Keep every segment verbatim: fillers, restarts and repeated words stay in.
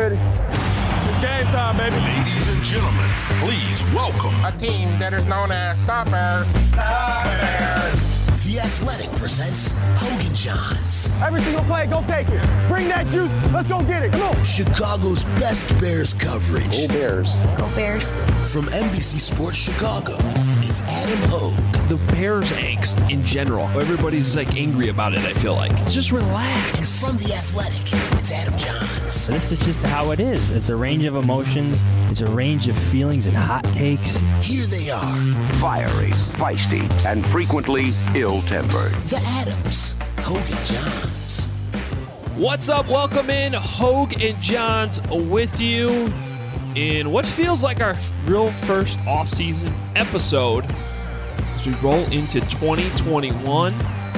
ready. It's game time, baby. Ladies and gentlemen, please welcome a team that is known as Stoppers. Stoppers. The Athletic presents Hogan Johns. Every single play, go take it. Bring that juice. Let's go get it. Come on. Chicago's best Bears coverage. Go Bears. Go Bears. From N B C Sports Chicago, it's Adam Hogue. The Bears angst in general. Everybody's like angry about it, I feel like. Just relax. And from The Athletic, it's Adam Johns. This is just how it is. It's a range of emotions. It's a range of feelings and hot takes. Here they are. Fiery, feisty, and frequently ill-tempered. The Adams. Hogue and Johns. What's up? Welcome in. Hogue and Johns with you in what feels like our real first off-season episode as we roll into twenty twenty-one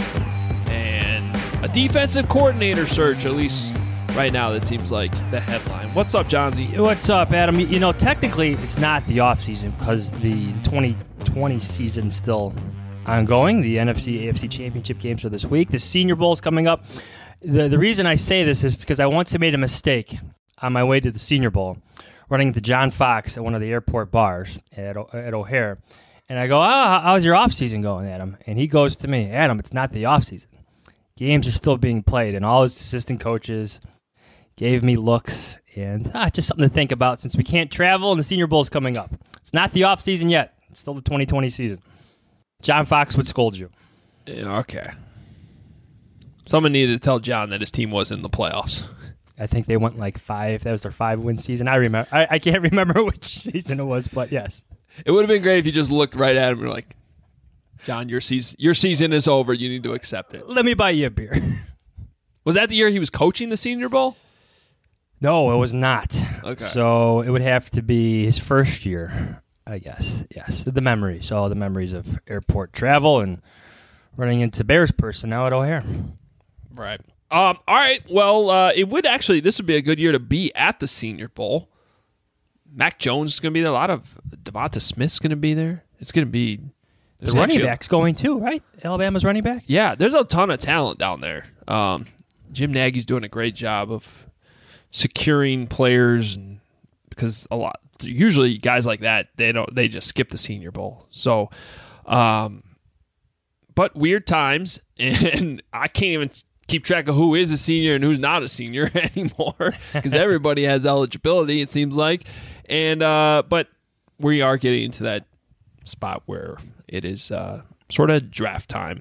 and a defensive coordinator search, at least right now, that seems like the headline. What's up, Johnsy? What's up, Adam? You know, technically, it's not the offseason because the twenty twenty season's still ongoing. The N F C A F C Championship games are this week. The Senior Bowl is coming up. The, the reason I say this is because I once made a mistake on my way to the Senior Bowl, running into John Fox at one of the airport bars at, at O'Hare. And I go, oh, how's your offseason going, Adam? And he goes to me, Adam, it's not the offseason. Games are still being played, and all his assistant coaches gave me looks, and ah, just something to think about since we can't travel and the Senior Bowl is coming up. It's not the offseason yet. It's still the twenty twenty season. John Fox would scold you. Yeah, okay. Someone needed to tell John that his team was in the playoffs. I think they went like five. That was their five-win season. I remember. I, I can't remember which season it was, but yes. It would have been great if you just looked right at him and were like, John, your season, your season is over. You need to accept it. Let me buy you a beer. Was that the year he was coaching the Senior Bowl? No, it was not. Okay. So it would have to be his first year, I guess. Yes, the memories. All the memories of airport travel and running into Bears personnel at O'Hare. Right. Um. All right. Well, uh, it would actually, this would be a good year to be at the Senior Bowl. Mac Jones is going to be there. A lot of Devonta Smith's going to be there. It's going to be. The running back's going too, right? Alabama's running back? Yeah, there's a ton of talent down there. Um, Jim Nagy's doing a great job of securing players, and because a lot usually guys like that they don't they just skip the Senior Bowl. So, um, but weird times, and I can't even keep track of who is a senior and who's not a senior anymore because everybody has eligibility, it seems like. And uh, but we are getting into that spot where it is uh, sort of draft time.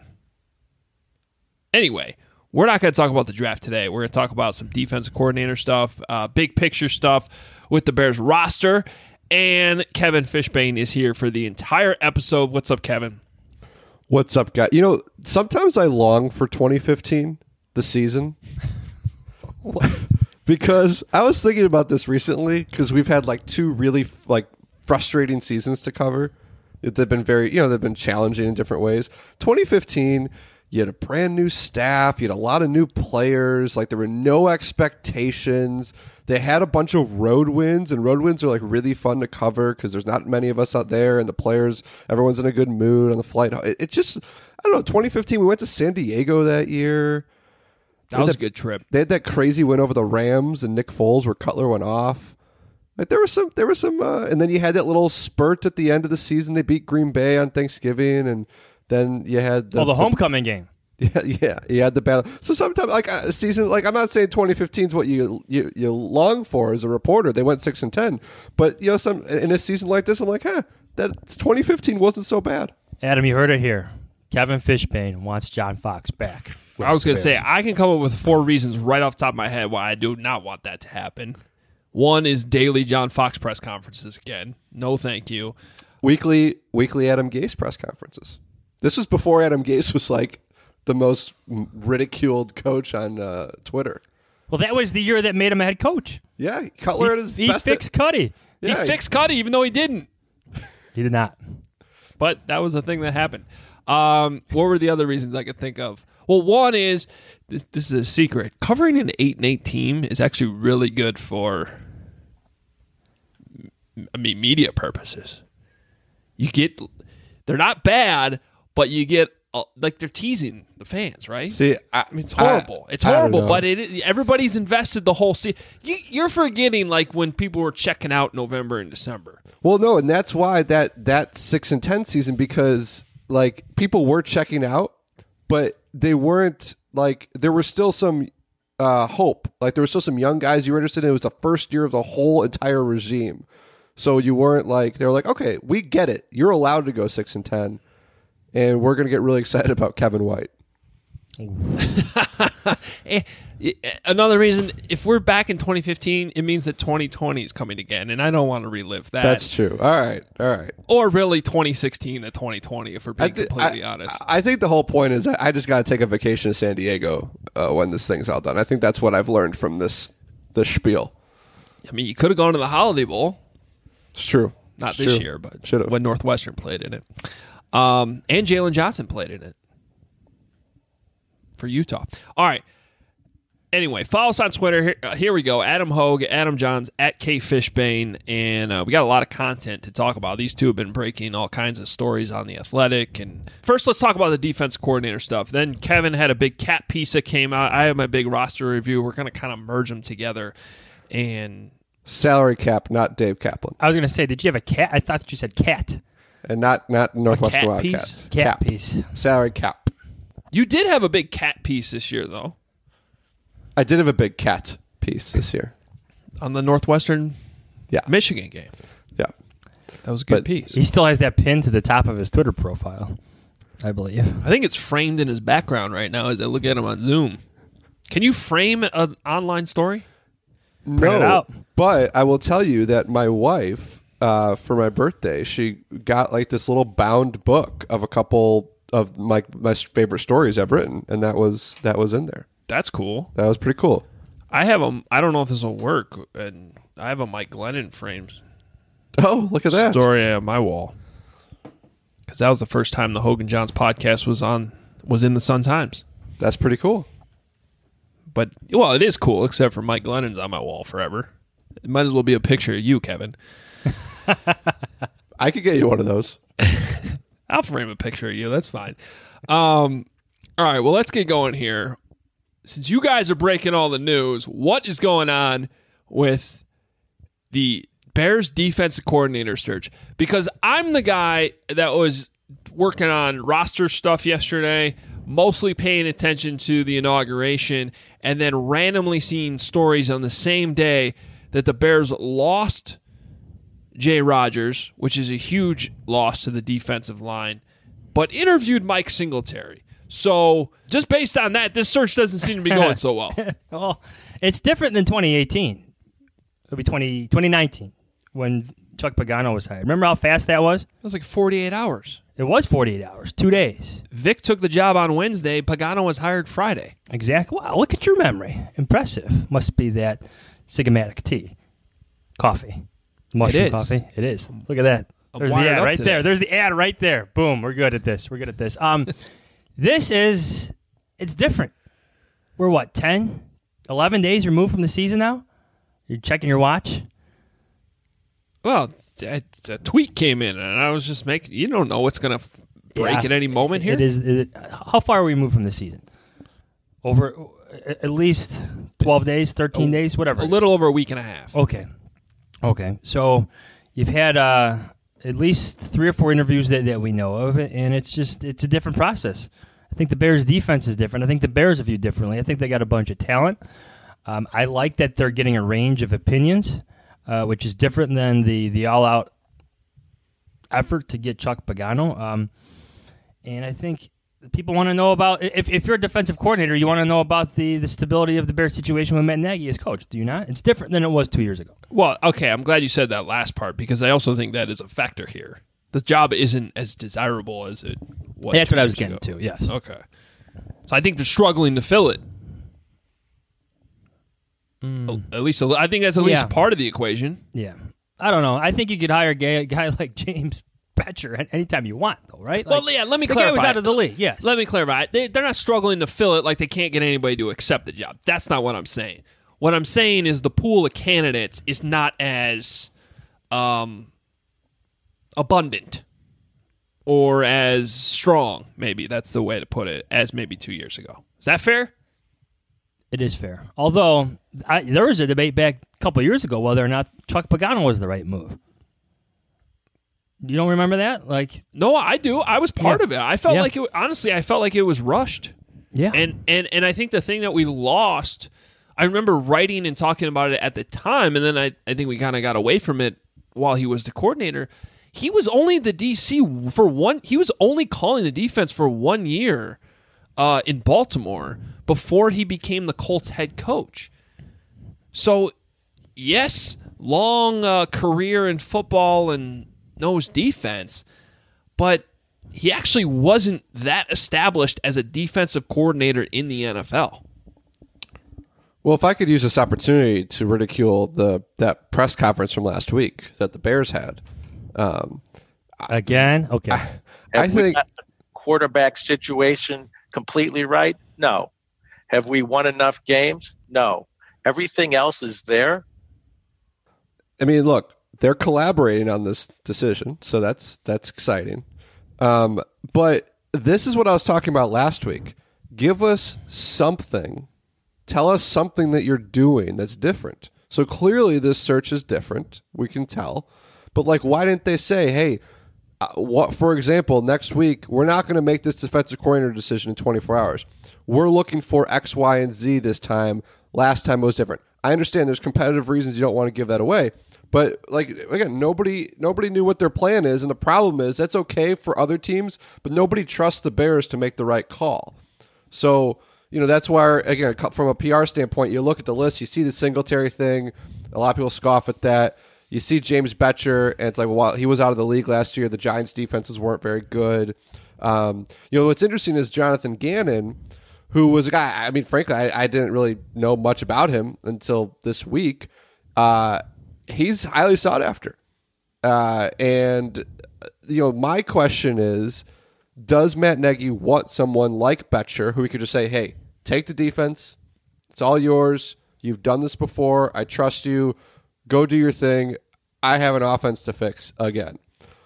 Anyway, we're not going to talk about the draft today. We're going to talk about some defensive coordinator stuff, uh, big picture stuff with the Bears roster. And Kevin Fishbane is here for the entire episode. What's up, Kevin? What's up, guys? You know, sometimes I long for twenty fifteen, the season. Because I was thinking about this recently because we've had like two really like frustrating seasons to cover. They've been very, you know, they've been challenging in different ways. twenty fifteen, you had a brand new staff. You had a lot of new players. Like there were no expectations. They had a bunch of road wins, and road wins are like really fun to cover because there's not many of us out there, and the players, everyone's in a good mood on the flight. It, it just, I don't know, twenty fifteen, we went to San Diego that year. That was that, a good trip. They had that crazy win over the Rams and Nick Foles where Cutler went off. Like there was some, there was some, uh, and then you had that little spurt at the end of the season. They beat Green Bay on Thanksgiving, and then you had the, oh, the homecoming the, game. Yeah, yeah, you had the battle. So sometimes, like a season, like I'm not saying twenty fifteen is what you, you you long for as a reporter. They went six and ten, but you know, some in a season like this, I'm like, huh, that twenty fifteen wasn't so bad. Adam, you heard it here. Kevin Fishbane wants John Fox back. I was going to say, I can come up with four reasons right off the top of my head why I do not want that to happen. One is daily John Fox press conferences again. No, thank you. Weekly, weekly Adam Gase press conferences. This was before Adam Gase was like the most ridiculed coach on uh, Twitter. Well, that was the year that made him a head coach. Yeah, Cutler he, at his he best. He fixed Cuddy. Yeah, he fixed Cuddy even though he didn't. He did not. But that was the thing that happened. Um, what were the other reasons I could think of? Well, one is, this, this is a secret, covering an eight and eight team is actually really good for, I mean, media purposes. You get, they're not bad, but you get uh, like they're teasing the fans, right? See, I, I mean, it's horrible. I, it's I don't horrible, know. but it everybody's invested the whole season. You, you're forgetting like when people were checking out November and December. Well, no, and that's why that that six and ten season, because like people were checking out, but they weren't like there was still some uh, hope. Like there was still some young guys you were interested in. It was the first year of the whole entire regime, so you weren't like they were like, okay, we get it. You're allowed to go six and ten, and we're going to get really excited about Kevin White. Another reason, if we're back in twenty fifteen, it means that twenty twenty is coming again, and I don't want to relive that. That's true. All right, all right. Or really twenty sixteen to twenty twenty, if we're being th- completely I, honest. I think the whole point is I just got to take a vacation to San Diego uh, when this thing's all done. I think that's what I've learned from this this spiel. I mean, you could have gone to the Holiday Bowl. It's true. Not It's this true. year, but Should've. when Northwestern played in it. Um, and Jalen Johnson played in it for Utah. All right. Anyway, follow us on Twitter. Here, uh, here we go. Adam Hogue, Adam Johns, at K Fishbane. And uh, we got a lot of content to talk about. These two have been breaking all kinds of stories on The Athletic. And first, let's talk about the defensive coordinator stuff. Then Kevin had a big cat piece that came out. I have my big roster review. We're going to kind of merge them together. And Salary cap, not Dave Kaplan, I was going to say, did you have a cat? I thought that you said cat. and not not Northwestern cat Wildcats. piece? Cat Cap. piece. Salary cap. you did have a big cat piece this year, though, I did have a big cat piece this year. on the Northwestern Yeah, Michigan game. yeah. That was a good But piece. He still has that pin to the top of his Twitter profile, I believe. I think it's framed in his background right now as I look at him on Zoom. Can you frame an online story? No, it out. but I will tell you that my wife, uh, for my birthday, she got like this little bound book of a couple of my my favorite stories I've written, and that was that was in there. That's cool. That was pretty cool. I have a. I don't know if this will work, and I have a Mike Glennon frames Oh, look at that! story on my wall because that was the first time the Hogan Johns podcast was on was in the Sun Times. That's pretty cool. But well, it is cool, except for Mike Glennon's on my wall forever. It might as well be a picture of you, Kevin. I could get you one of those. I'll frame a picture of you. That's fine. Um, all right. Well, let's get going here. Since you guys are breaking all the news, what is going on with the Bears defensive coordinator search? Because I'm the guy that was working on roster stuff yesterday, mostly paying attention to the inauguration, and then randomly seeing stories on the same day that the Bears lost Jay Rodgers, which is a huge loss to the defensive line, but interviewed Mike Singletary. So just based on that, this search doesn't seem to be going so well. Well, it's different than twenty eighteen. It'll be twenty, twenty nineteen when Chuck Pagano was hired. Remember how fast that was? It was like forty-eight hours. It was forty-eight hours, two days. Vic took the job on Wednesday. Pagano was hired Friday. Exactly. Wow, look at your memory. Impressive. Must be that Sigmatic tea. Coffee. Mushroom is. coffee. It is. Look at that. I'm There's the wired ad up right to there. that. There's the ad right there. Boom. We're good at this. We're good at this. Um, this is, it's different. We're what, ten, eleven days removed from the season now? You're checking your watch? Well, a, a tweet came in, and I was just making. You don't know what's going to break Yeah. at any moment here. It is. It, how far are we moved from the season? Over at least twelve days, thirteen days, whatever. a little over a week and a half. Okay. Okay. So you've had uh, at least three or four interviews that, that we know of, and it's just it's a different process. I think the Bears' defense is different. I think the Bears are viewed differently. I think they got a bunch of talent. Um, I like that they're getting a range of opinions, uh, which is different than the the all-out effort to get Chuck Pagano. Um, and I think people want to know about, if, if you're a defensive coordinator, you want to know about the, the stability of the Bears situation with Matt Nagy as coach. Do you not? It's different than it was two years ago. Well, okay, I'm glad you said that last part because I also think that is a factor here. The job isn't as desirable as it was. That's two what I was years getting ago. to, yes. Okay. So I think they're struggling to fill it. At least, a li- I think that's at least Yeah. part of the equation. Yeah. I don't know. I think you could hire a guy, a guy like James Betcher at anytime you want, though, right? Like, Well, yeah, let me the clarify. guy was out of the league, yes. Let me clarify. They, they're not struggling to fill it like they can't get anybody to accept the job. That's not what I'm saying. What I'm saying is the pool of candidates is not as um, abundant. or as strong, maybe that's the way to put it, as maybe two years ago. Is that fair? It is fair. Although, I, there was a debate back a couple of years ago whether or not Chuck Pagano was the right move. You don't remember that? Like, no, I do. I was part yeah. of it. I felt yeah. like it. Honestly, I felt like it was rushed. Yeah. And and and I think the thing that we lost, I remember writing and talking about it at the time, and then I I think we kind of got away from it while he was the coordinator. He was only the D C for one. He was only calling the defense for one year uh, in Baltimore before he became the Colts head coach. So, yes, long uh, career in football and knows defense, but he actually wasn't that established as a defensive coordinator in the N F L. Well, if I could use this opportunity to ridicule the that press conference from last week that the Bears had. Um, Again? Okay. I, I Have we think got the quarterback situation completely right? No. Have we won enough games? No. Everything else is there. I mean, look, they're collaborating on this decision, so that's that's exciting. Um, but this is what I was talking about last week. Give us something. Tell us something that you're doing that's different. So clearly this search is different. We can tell. But, like, why didn't they say, hey, uh, what? For example, next week, we're not going to make this defensive coordinator decision in twenty-four hours. We're looking for X, Y, and Z this time. Last time it was different. I understand there's competitive reasons you don't want to give that away. But, like, again, nobody nobody knew what their plan is. And the problem is that's okay for other teams, but nobody trusts the Bears to make the right call. So, you know, that's why, again, from a P R standpoint, you look at the list, you see the Singletary thing. A lot of people scoff at that. You see James Betcher, and it's like, well, he was out of the league last year. The Giants' defenses weren't very good. Um, you know, what's interesting is Jonathan Gannon, who was a guy, I mean, frankly, I, I didn't really know much about him until this week. Uh, he's highly sought after. Uh, and, you know, my question is, does Matt Nagy want someone like Betcher who he could just say, hey, take the defense. It's all yours. You've done this before. I trust you. Go do your thing. I have an offense to fix again.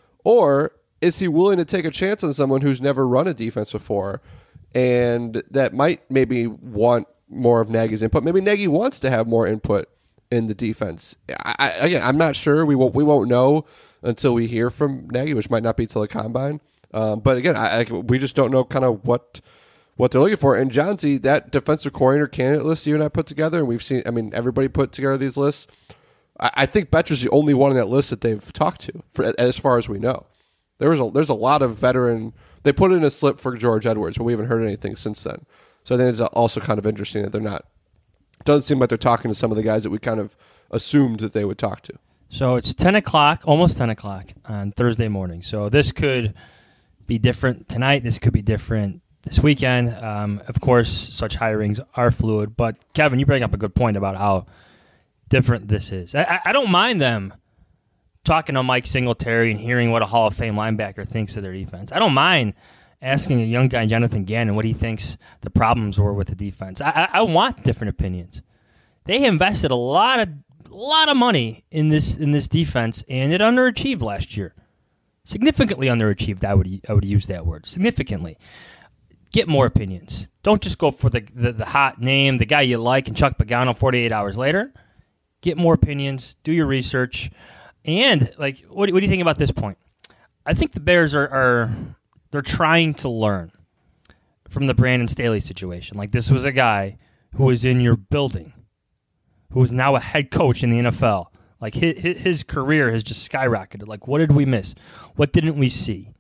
Or is he willing to take a chance on someone who's never run a defense before and that might maybe want more of Nagy's input? Maybe Nagy wants to have more input in the defense. I, I, again, I'm not sure. We won't, we won't know until we hear from Nagy, which might not be till the combine. Um, but again, I, I, we just don't know kind of what what they're looking for. And John Z, that defensive coordinator candidate list you and I put together, and we've seen, I mean, everybody put together these lists. I, I think Betcher's the only one on that list that they've talked to, for, as far as we know. There was a, there's a lot of veteran. They put in a slip for George Edwards, but we haven't heard anything since then. So I think it's also kind of interesting that they're not. It doesn't seem like they're talking to some of the guys that we kind of assumed that they would talk to. So it's ten o'clock, almost ten o'clock on Thursday morning. So this could be different tonight. This could be different this weekend. Um, of course, such hirings are fluid. But, Kevin, you bring up a good point about how different this is. I, I don't mind them talking to Mike Singletary and hearing what a Hall of Fame linebacker thinks of their defense. I don't mind asking a young guy, Jonathan Gannon, what he thinks the problems were with the defense. I, I, I want different opinions. They invested a lot of a lot of money in this in this defense, and it underachieved last year. Significantly underachieved, I would I would use that word. Significantly. Get more opinions. Don't just go for the, the, the hot name, the guy you like, and Chuck Pagano forty-eight hours later. Get more opinions. Do your research. And, like, what, what do you think about this point? I think the Bears are, are they're trying to learn from the Brandon Staley situation. Like, this was a guy who was in your building, who is now a head coach in the N F L. Like, his, his career has just skyrocketed. Like, what did we miss? What didn't we see?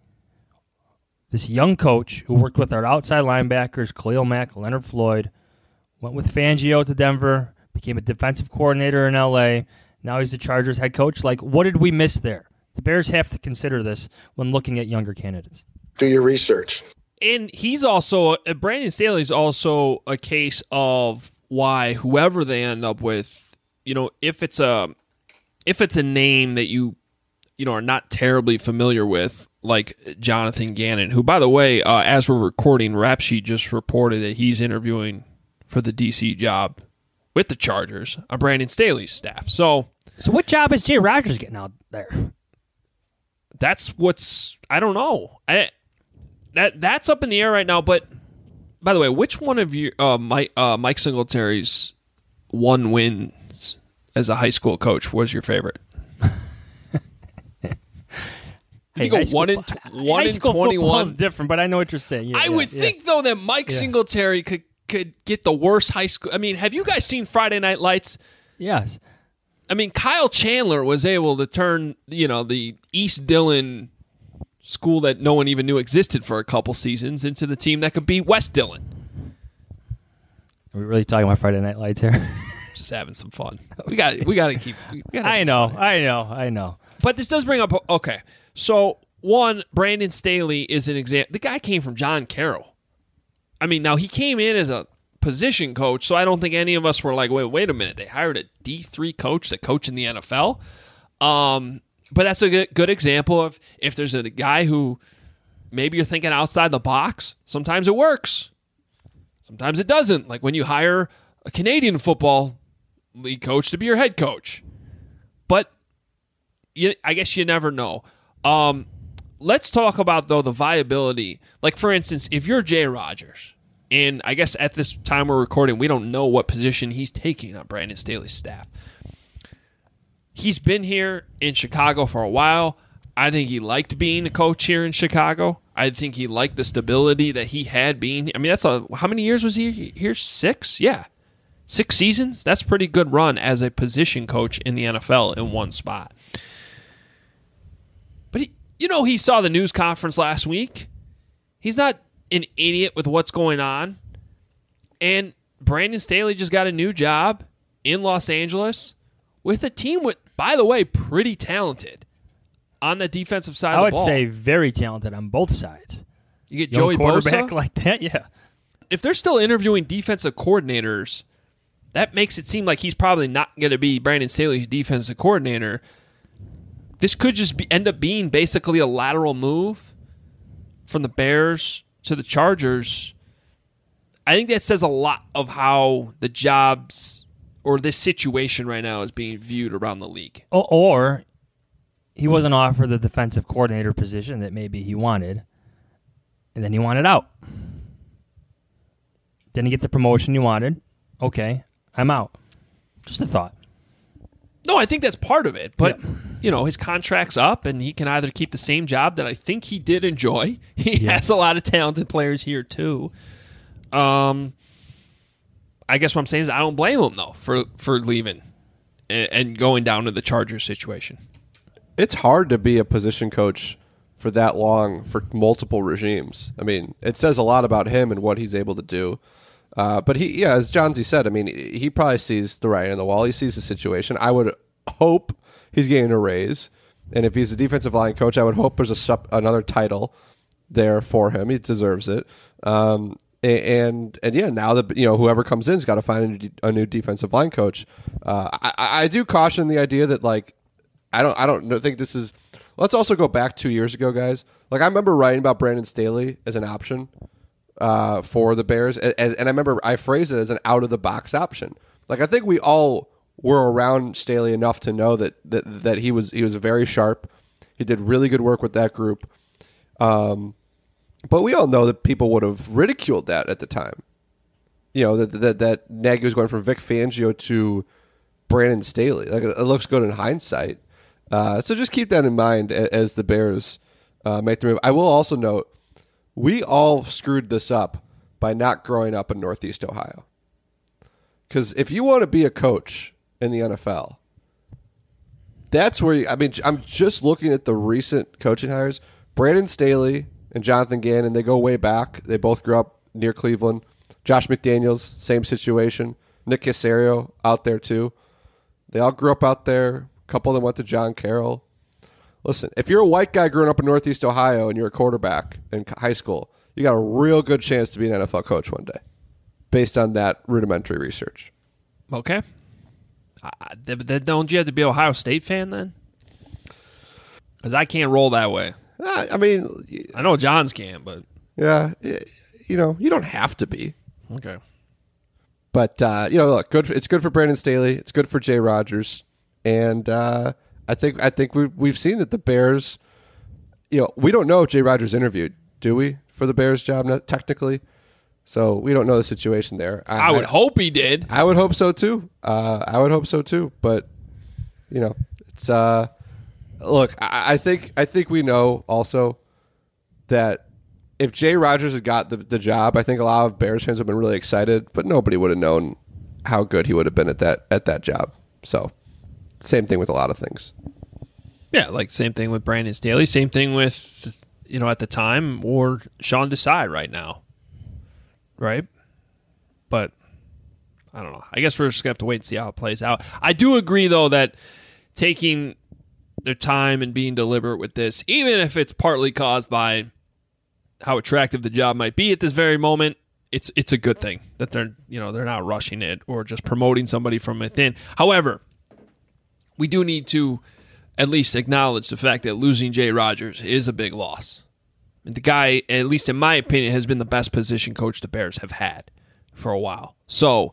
This young coach who worked with our outside linebackers, Khalil Mack, Leonard Floyd, went with Fangio to Denver, became a defensive coordinator in L A. Now he's the Chargers head coach. Like, what did we miss there? The Bears have to consider this when looking at younger candidates. Do your research. And he's also, uh, Brandon Staley's also a case of why whoever they end up with, you know, if it's a if it's a name that you, you know, are not terribly familiar with, like Jonathan Gannon, who, by the way, uh, as we're recording, Rap Sheet just reported that he's interviewing for the D C job with the Chargers on Brandon Staley's staff. So, so what job is Jay Rodgers getting out there? that's what's I don't know. I that that's up in the air right now. But by the way, which one of you, uh, Mike uh, Mike Singletary's one wins as a high school coach was your favorite? Hey, you go high one school, in t- one high in school twenty-one. Is different, but I know what you're saying. Yeah, I yeah, would yeah. think though that Mike Yeah. Singletary could could get the worst high school. I mean, have you guys seen Friday Night Lights? Yes. I mean, Kyle Chandler was able to turn, you know, the East Dillon school that no one even knew existed for a couple seasons into the team that could beat West Dillon. Are we really talking about Friday Night Lights here? Just having some fun. We got we got to keep. We gotta have I some know, fun. I know, I know. But this does bring up. Okay, so one, Brandon Staley is an example. The guy came from John Carroll. I mean, now he came in as a position coach, so I don't think any of us were like, wait, wait a minute. They hired a D three coach to coach in the N F L. Um, but that's a good, good example of if there's a guy who maybe you're thinking outside the box, sometimes it works. Sometimes it doesn't. Like when you hire a Canadian football league coach to be your head coach. But you, I guess you never know. Um, let's talk about, though, the viability. Like, for instance, if you're Jay Rodgers, and I guess at this time we're recording, we don't know what position he's taking on Brandon Staley's staff. He's been here in Chicago for a while. I think he liked being a coach here in Chicago. I think he liked the stability that he had being. I mean, that's a how many years was he here? Six? Yeah. Six seasons? That's a pretty good run as a position coach in the N F L in one spot. But, he, you know, he saw the news conference last week. He's not an idiot with what's going on. And Brandon Staley just got a new job in Los Angeles with a team with, by the way, pretty talented on the defensive side I of the would ball. say very talented on both sides. You get Young Joey quarterback Bosa. like that, yeah. If they're still interviewing defensive coordinators, that makes it seem like he's probably not going to be Brandon Staley's defensive coordinator. This could just be, end up being basically a lateral move from the Bears to the Chargers. I think that says a lot of how the jobs or this situation right now is being viewed around the league. Or, or he wasn't offered the defensive coordinator position that maybe he wanted, and then he wanted out. Didn't get the promotion he wanted. Okay, I'm out. Just a thought. No, I think that's part of it. But, Yeah. you know, his contract's up, and he can either keep the same job that I think he did enjoy. He Yeah. has a lot of talented players here, too. Um, I guess what I'm saying is I don't blame him, though, for, for leaving and, and going down to the Chargers situation. It's hard to be a position coach for that long for multiple regimes. I mean, it says a lot about him and what he's able to do. Uh, but he, yeah, as Johnsy said, I mean, he probably sees the writing on the wall. He sees the situation. I would hope he's getting a raise, and if he's a defensive line coach, I would hope there's a sup, another title there for him. He deserves it. Um, and and yeah, now that you know whoever comes in's got to find a new, a new defensive line coach. Uh, I, I do caution the idea that like I don't I don't think this is. Let's also go back two years ago, guys. Like I remember writing about Brandon Staley as an option. Uh, for the Bears, and, and I remember I phrased it as an out-of-the-box option. Like I think we all were around Staley enough to know that that, that he was he was very sharp. He did really good work with that group. Um, but we all know that people would have ridiculed that at the time. You know that that that Nagy was going from Vic Fangio to Brandon Staley. Like it looks good in hindsight. Uh, so just keep that in mind as, as the Bears uh, make the move. I will also note. We all screwed this up by not growing up in Northeast Ohio. Because if you want to be a coach in the N F L, that's where you, I mean, I'm just looking at the recent coaching hires. Brandon Staley and Jonathan Gannon, they go way back. They both grew up near Cleveland. Josh McDaniels, same situation. Nick Caserio out there too. They all grew up out there. A couple of them went to John Carroll. Listen, if you're a white guy growing up in Northeast Ohio and you're a quarterback in high school, you got a real good chance to be an N F L coach one day, based on that rudimentary research. Okay. Uh, then don't you have to be an Ohio State fan then? Because I can't roll that way. Uh, I mean, I know Johns can, but yeah, you know, you don't have to be. Okay. But uh, you know, look, good. For, it's good for Brandon Staley. It's good for Jay Rodgers, and uh, I think I think we've we've seen that the Bears you know, we don't know if Jay Rodgers interviewed, do we, for the Bears job not technically? So we don't know the situation there. I, I would I, hope he did. I would hope so too. Uh, I would hope so too. But you know, it's uh, look. I, I think I think we know also that if Jay Rodgers had got the, the job, I think a lot of Bears fans would have been really excited. But nobody would have known how good he would have been at that at that job. So same thing with a lot of things. Yeah, like same thing with Brandon Staley. Same thing with, you know, at the time, or Sean Desai right now. Right? But I don't know. I guess we're just going to have to wait and see how it plays out. I do agree, though, that taking their time and being deliberate with this, even if it's partly caused by how attractive the job might be at this very moment, it's it's a good thing that they're, you know, they're not rushing it or just promoting somebody from within. However, we do need to at least acknowledge the fact that losing Jay Rodgers is a big loss. And the guy, at least in my opinion, has been the best position coach the Bears have had for a while. So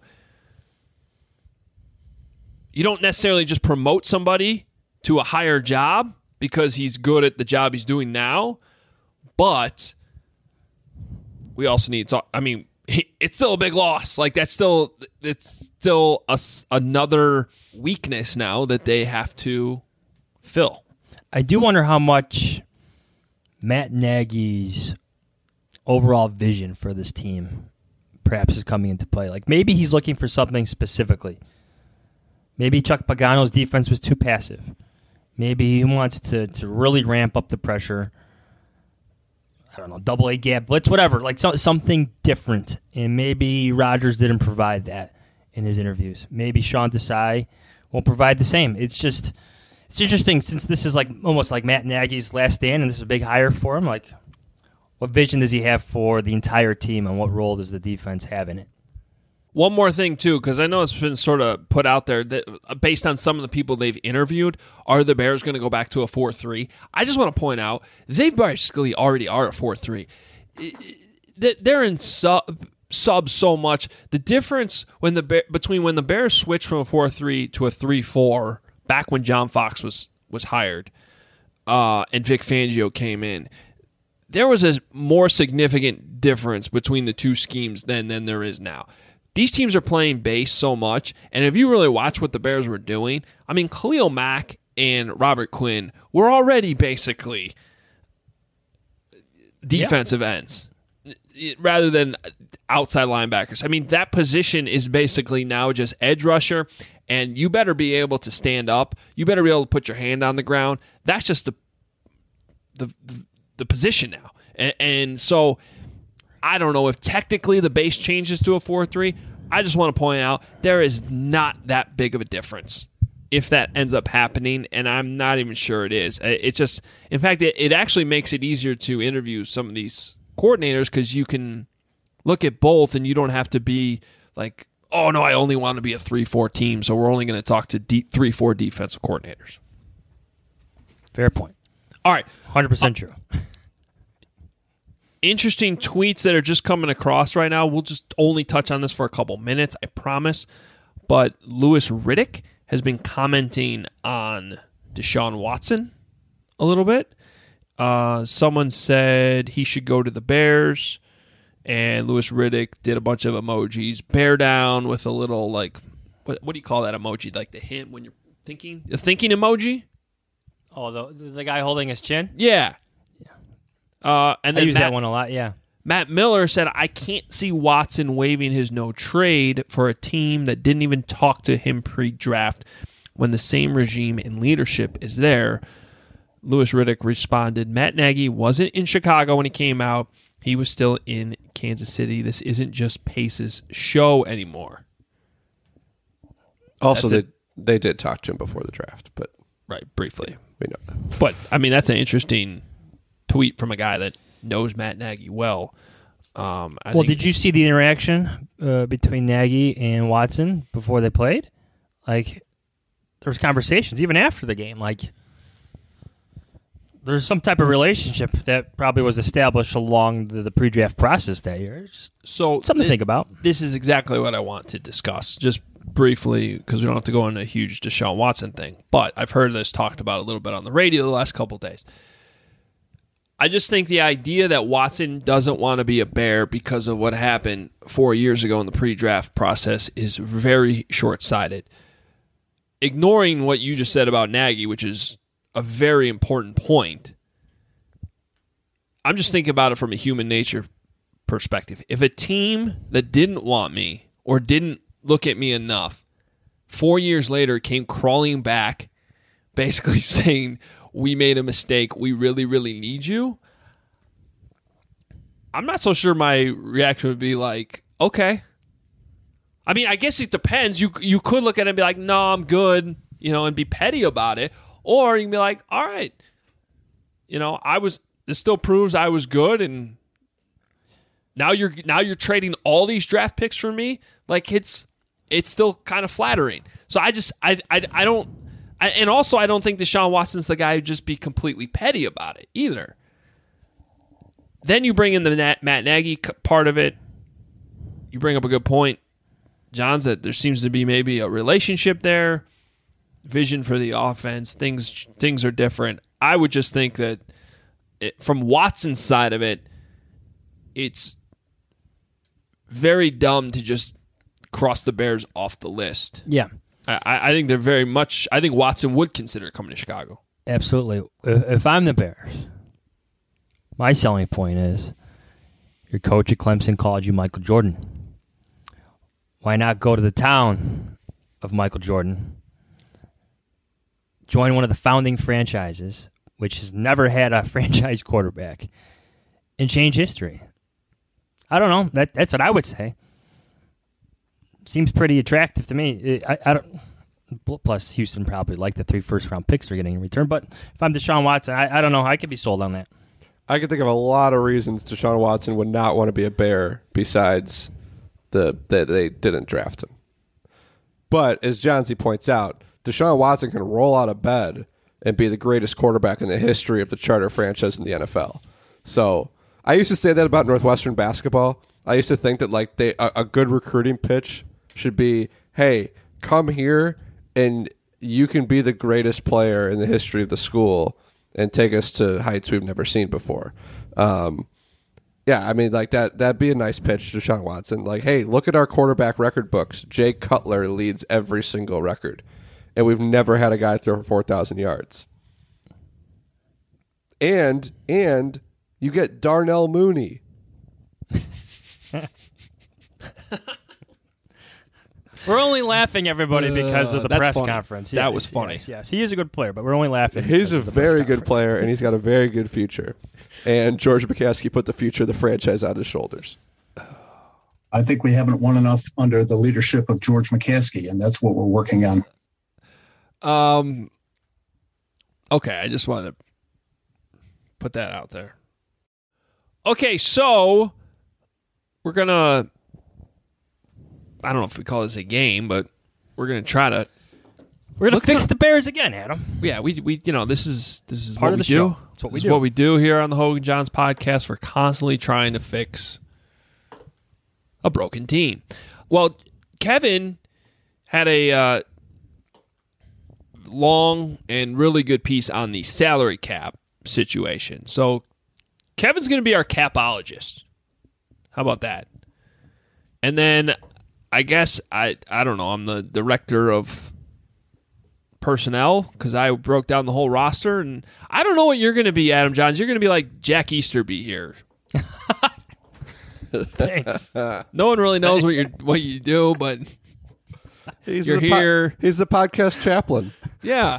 you don't necessarily just promote somebody to a higher job because he's good at the job he's doing now, but we also need to, I mean, it's still a big loss. Like that's still, it's still a, another weakness now that they have to fill. I do wonder how much Matt Nagy's overall vision for this team perhaps is coming into play. Like maybe he's looking for something specifically. Maybe Chuck Pagano's defense was too passive. Maybe he wants to, to really ramp up the pressure. I don't know, double A gap blitz, whatever. Like so, something different. And maybe Rodgers didn't provide that in his interviews. Maybe Sean Desai won't provide the same. It's just... It's interesting since this is like almost like Matt Nagy's last stand, and this is a big hire for him. Like, what vision does he have for the entire team, and what role does the defense have in it? One more thing, too, because I know it's been sort of put out there that based on some of the people they've interviewed, are the Bears going to go back to a four three? I just want to point out, they basically already are a four three. They're in sub, sub so much. The difference when the between when the Bears switched from a four three to a three four, back when John Fox was, was hired uh, and Vic Fangio came in, there was a more significant difference between the two schemes then than there is now. These teams are playing base so much, and if you really watch what the Bears were doing, I mean, Khalil Mack and Robert Quinn were already basically defensive yeah. ends rather than outside linebackers. I mean, that position is basically now just edge rusher, and you better be able to stand up. You better be able to put your hand on the ground. That's just the the the position now. And, and so I don't know if technically the base changes to a four three. I just want to point out there is not that big of a difference if that ends up happening, and I'm not even sure it is. It's just, in fact, it, it actually makes it easier to interview some of these coordinators because you can look at both and you don't have to be like, oh, no, I only want to be a three four team, so we're only going to talk to three four defensive coordinators. Fair point. All right. one hundred percent uh, true. Interesting tweets that are just coming across right now. We'll just only touch on this for a couple minutes, I promise. But Louis Riddick has been commenting on Deshaun Watson a little bit. Uh, someone said he should go to the Bears. And Louis Riddick did a bunch of emojis. Bear down with a little, like, what, what do you call that emoji? Like the hint when you're thinking? The thinking emoji? Oh, the the guy holding his chin? Yeah. yeah. Uh, and I then use Matt, that one a lot, yeah. Matt Miller said, I can't see Watson waiving his no trade for a team that didn't even talk to him pre-draft when the same regime and leadership is there. Louis Riddick responded, Matt Nagy wasn't in Chicago when he came out. He was still in Kansas City. This isn't just Pace's show anymore. Also, they, they did talk to him before the draft, but right, briefly. We know that. But, I mean, that's an interesting tweet from a guy that knows Matt Nagy well. Um, I well, think did you see the interaction uh, between Nagy and Watson before they played? Like, there was conversations even after the game. Like, there's some type of relationship that probably was established along the, the pre-draft process that year. Just so something th- to think about. This is exactly what I want to discuss, just briefly, because we don't have to go into a huge Deshaun Watson thing. But I've heard this talked about a little bit on the radio the last couple of days. I just think the idea that Watson doesn't want to be a Bear because of what happened four years ago in the pre-draft process is very short-sighted. Ignoring what you just said about Nagy, which is a very important point, I'm just thinking about it from a human nature perspective. If a team that didn't want me or didn't look at me enough four years later came crawling back basically saying, we made a mistake, we really, really need you, I'm not so sure my reaction would be like, okay. I mean, I guess it depends. You you could look at it and be like, no, I'm good, you know, and be petty about it. Or you can be like, all right, you know, I was, this still proves I was good, and now you're now you're trading all these draft picks for me. Like, it's it's still kind of flattering. So I just, I, I, I don't, I, and also, I don't think Deshaun Watson's the guy who'd just be completely petty about it either. Then you bring in the Matt, Matt Nagy part of it. You bring up a good point, John's, that there seems to be maybe a relationship there, vision for the offense. Things things are different. I would just think that it, from Watson's side of it, it's very dumb to just cross the Bears off the list. Yeah. I, I think they're very much. I think Watson would consider coming to Chicago. Absolutely. If, if I'm the Bears, my selling point is your coach at Clemson called you Michael Jordan. Why not go to the town of Michael Jordan, join one of the founding franchises, which has never had a franchise quarterback, and change history? I don't know. That that's what I would say. Seems pretty attractive to me. I, I don't. Plus, Houston probably like the three first-round picks they're getting in return. But if I'm Deshaun Watson, I, I don't know. I could be sold on that. I can think of a lot of reasons Deshaun Watson would not want to be a Bear besides the that they didn't draft him. But as John Z points out, Deshaun Watson can roll out of bed and be the greatest quarterback in the history of the charter franchise in the N F L. So I used to say that about Northwestern basketball. I used to think that like they a, a good recruiting pitch should be, hey, come here and you can be the greatest player in the history of the school and take us to heights we've never seen before. Um, yeah, I mean, like that, that'd be a nice pitch to Deshaun Watson. Like, hey, look at our quarterback record books. Jay Cutler leads every single record, and we've never had a guy throw for four thousand yards. And, and you get Darnell Mooney. We're only laughing, everybody, because of the uh, press funny. conference. That yes, was funny. Yes, yes, he is a good player, but we're only laughing. He's a of the press very good conference. player, and he's got a very good future. And George McCaskey put the future of the franchise on his shoulders. I think we haven't won enough under the leadership of George McCaskey, and that's what we're working on. Um. Okay, I just wanted to put that out there. Okay, so we're going to, I don't know if we call this a game, but we're going to try to We're going to fix up, the Bears again, Adam. Yeah, we we you know, this is this is part what of we the do. show. That's what we this do. is what we do here on the Hogan Johns podcast. We're constantly trying to fix a broken team. Well, Kevin had a uh, long and really good piece on the salary cap situation. So Kevin's going to be our capologist. How about that? And then I guess I I don't know. I'm the director of personnel because I broke down the whole roster, and I don't know what you're going to be, Adam Johns. You're going to be like Jack Easterby here. Thanks. No one really knows what you what you do, but He's you're the po- here. he's the podcast chaplain. Yeah.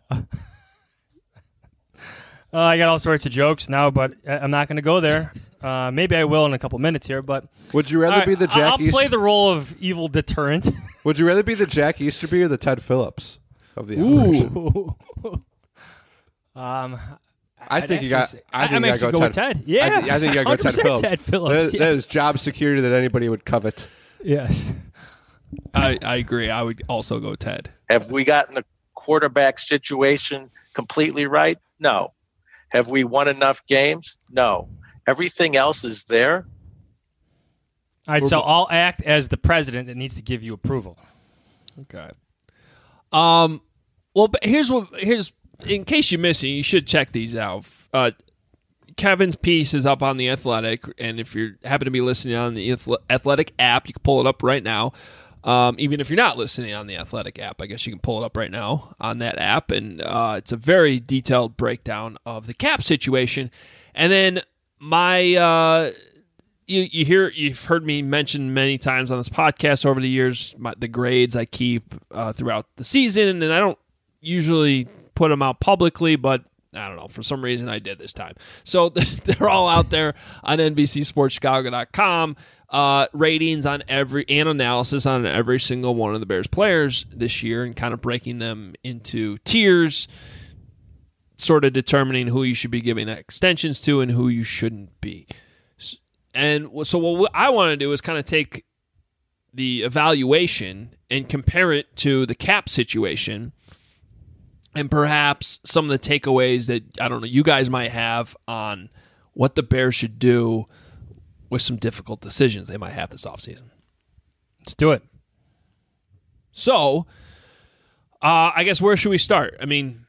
Uh, I got all sorts of jokes now, but I- I'm not going to go there. Uh, maybe I will in a couple minutes here, but Would you rather All right, be the Jack I'll East- play the role of evil deterrent. Would you rather be the Jack Easterby or the Ted Phillips of the operation? Ooh. um, I I'd think you got. actually say- I think I'm you actually got to go with Ted. Yeah, I, thi- I think you got to go Ted one hundred percent Phillips. Ted Phillips, That is, that yes. is job security that anybody would covet. Yes. I, I agree. I would also go Ted. Have we gotten the quarterback situation completely right? No. Have we won enough games? No. Everything else is there. All right, so I'll act as the president that needs to give you approval. Okay. Um. Well, but here's what. Here's in case you missed it, you should check these out. Uh, Kevin's piece is up on The Athletic, and if you happen to be listening on the Athletic app, you can pull it up right now. Um, even if you're not listening on the Athletic app, I guess you can pull it up right now on that app, and uh, it's a very detailed breakdown of the cap situation. And then my, uh, you you hear you've heard me mention many times on this podcast over the years my, the grades I keep uh, throughout the season, and I don't usually put them out publicly, but I don't know, for some reason I did this time. So they're all out there on N B C Sports Chicago dot com. Uh, ratings on every, and analysis on every single one of the Bears players this year, and kind of breaking them into tiers, sort of determining who you should be giving extensions to and who you shouldn't be. And so what I want to do is kind of take the evaluation and compare it to the cap situation, and perhaps some of the takeaways that, I don't know, you guys might have on what the Bears should do with some difficult decisions they might have this offseason. Let's do it. So, uh, I guess where should we start? I mean,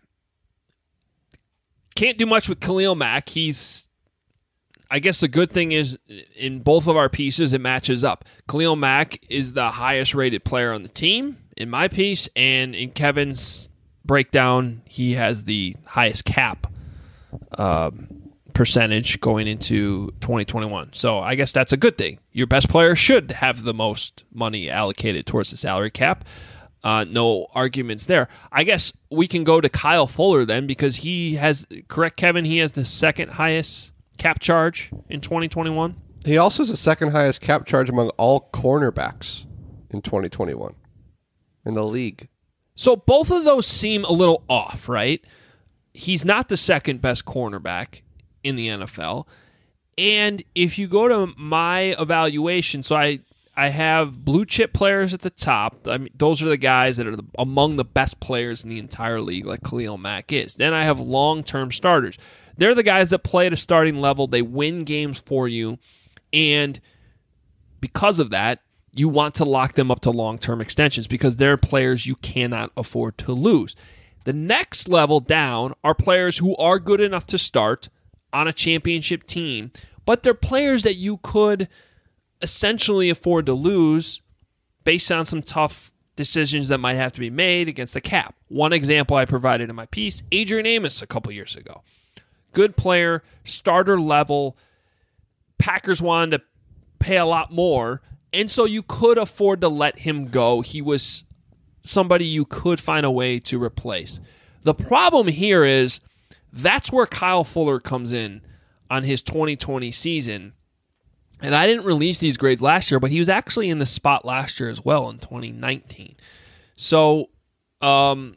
can't do much with Khalil Mack. He's, I guess the good thing is in both of our pieces, it matches up. Khalil Mack is the highest rated player on the team in my piece, and in Kevin's breakdown, he has the highest cap um, percentage going into twenty twenty-one. So I guess that's a good thing. Your best player should have the most money allocated towards the salary cap. Uh, no arguments there. I guess we can go to Kyle Fuller then, because he has, correct, Kevin, he has the second highest cap charge in twenty twenty-one. He also has the second highest cap charge among all cornerbacks in twenty twenty-one in the league. So both of those seem a little off, right? He's not the second best cornerback in the N F L. And if you go to my evaluation, so I I have blue chip players at the top. I mean, those are the guys that are the, among the best players in the entire league, like Khalil Mack is. Then I have long-term starters. They're the guys that play at a starting level. They win games for you. And because of that, you want to lock them up to long-term extensions because they're players you cannot afford to lose. The next level down are players who are good enough to start on a championship team, but they're players that you could essentially afford to lose based on some tough decisions that might have to be made against the cap. One example I provided in my piece, Adrian Amos a couple years ago. Good player, starter level. Packers wanted to pay a lot more, and so you could afford to let him go. He was somebody you could find a way to replace. The problem here is that's where Kyle Fuller comes in on his twenty twenty season. And I didn't release these grades last year, but he was actually in the spot last year as well in twenty nineteen. So um,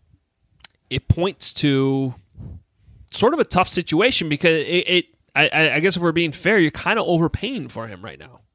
it points to sort of a tough situation because it, it I, I guess if we're being fair, you're kind of overpaying for him right now.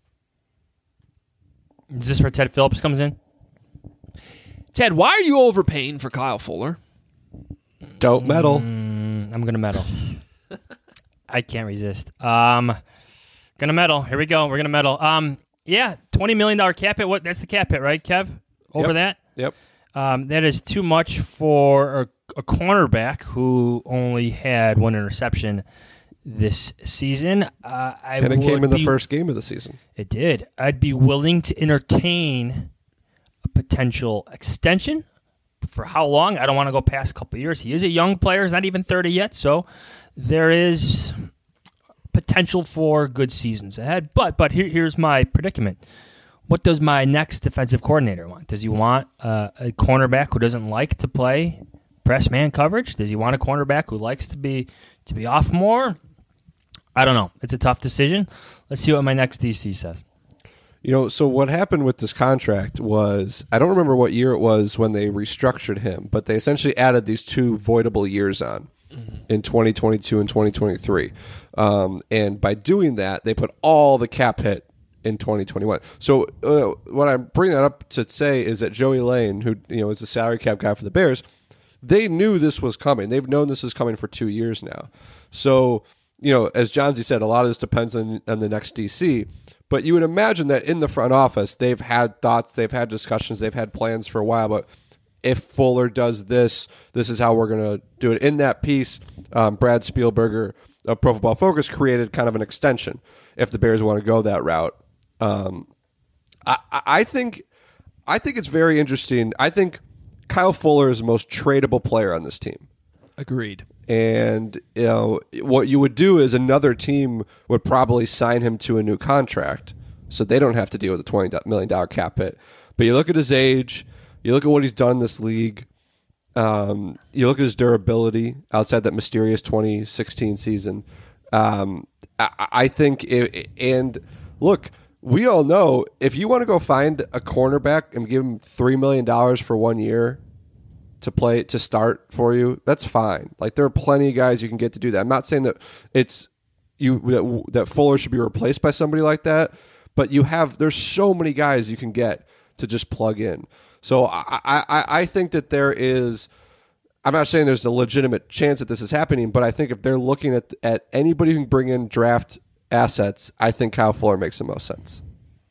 Is this where Ted Phillips comes in? Ted, why are you overpaying for Kyle Fuller? Don't meddle. Mm, I'm going to meddle. I can't resist. Um, going to meddle. Here we go. We're going to meddle. Um, yeah, twenty million dollars cap hit. What? That's the cap hit, right, Kev? Over Yep. that? Yep. Um, that is too much for a, a cornerback who only had one interception this season. Uh, I and it came in the be, first game of the season. It did. I'd be willing to entertain a potential extension. For how long? I don't want to go past a couple of years. He is a young player. He's not even thirty yet, so there is potential for good seasons ahead. But but here, here's my predicament. What does my next defensive coordinator want? Does he want uh, a cornerback who doesn't like to play press man coverage? Does he want a cornerback who likes to be to be off more? I don't know. It's a tough decision. Let's see what my next D C says. You know, so what happened with this contract was, I don't remember what year it was when they restructured him, but they essentially added these two voidable years on mm-hmm. in twenty twenty-two and twenty twenty-three. Um, and by doing that, they put all the cap hit in twenty twenty-one. So uh, what I'm bringing that up to say is that Joey Lane, who you know is the salary cap guy for the Bears, they knew this was coming. They've known this is coming for two years now. So, you know, as Johnsy said, a lot of this depends on, on the next D C. But you would imagine that in the front office, they've had thoughts, they've had discussions, they've had plans for a while. But if Fuller does this, this is how we're going to do it. In that piece, um, Brad Spielberger of Pro Football Focus created kind of an extension if the Bears want to go that route. Um, I, I think I think it's very interesting. I think Kyle Fuller is the most tradable player on this team. Agreed. And you know what you would do is another team would probably sign him to a new contract, so they don't have to deal with a twenty million dollars cap hit. But you look at his age, you look at what he's done in this league, um, you look at his durability outside that mysterious twenty sixteen season. Um, I, I think, it, and look, we all know if you want to go find a cornerback and give him three million dollars for one year to play to start for you, that's fine. Like there are plenty of guys you can get to do that. I'm not saying that it's you that, that Fuller should be replaced by somebody like that, but you have there's so many guys you can get to just plug in. So I I, I think that there is. I'm not saying there's a legitimate chance that this is happening, but I think if they're looking at at anybody who can bring in draft assets, I think Kyle Fuller makes the most sense.